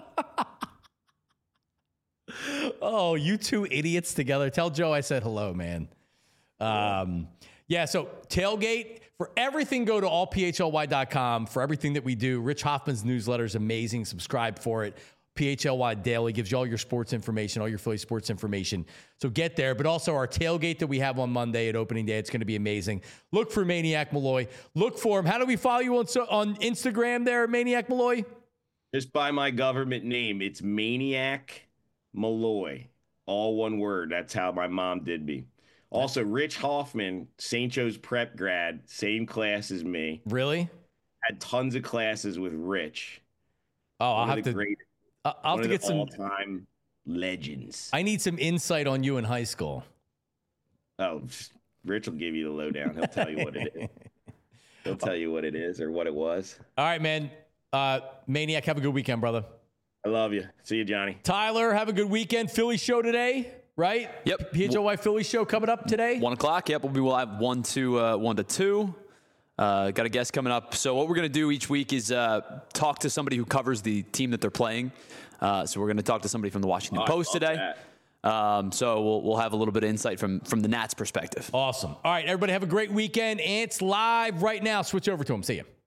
Oh, you two idiots together. Tell Joe I said hello, man. Um, yeah, so tailgate. For everything, go to all p h l y dot com. For everything that we do, Rich Hoffman's newsletter is amazing. Subscribe for it. P H L Y Daily gives you all your sports information, all your Philly sports information. So get there. But also our tailgate that we have on Monday at opening day. It's going to be amazing. Look for Maniac Malloy. Look for him. How do we follow you on, on Instagram there, Maniac Malloy? Just by my government name. It's Maniac Malloy. All one word. That's how my mom did me. Also, Rich Hoffman, Saint Joe's prep grad, same class as me. Really? Had tons of classes with Rich. Oh, I'll one have of the to. Great, Uh, I'll have to one of get the some all-time legends. I need some insight on you in high school. Oh, Rich will give you the lowdown. He'll tell you what it is. He'll tell you what it is or what it was. All right, man. Uh, Maniac, have a good weekend, brother. I love you. See you, Johnny. Tyler, have a good weekend. Philly show today, right? Yep. P H L Y Philly show coming up today. One o'clock. Yep. We'll be live one to uh, one to two. Uh, got a guest coming up. So what we're going to do each week is uh, talk to somebody who covers the team that they're playing. Uh, so we're going to talk to somebody from the Washington Oh, Post today. that. Um, so we'll we'll have a little bit of insight from from the Nats perspective. Awesome. All right, everybody have a great weekend. Ants live right now. Switch over to them. See you.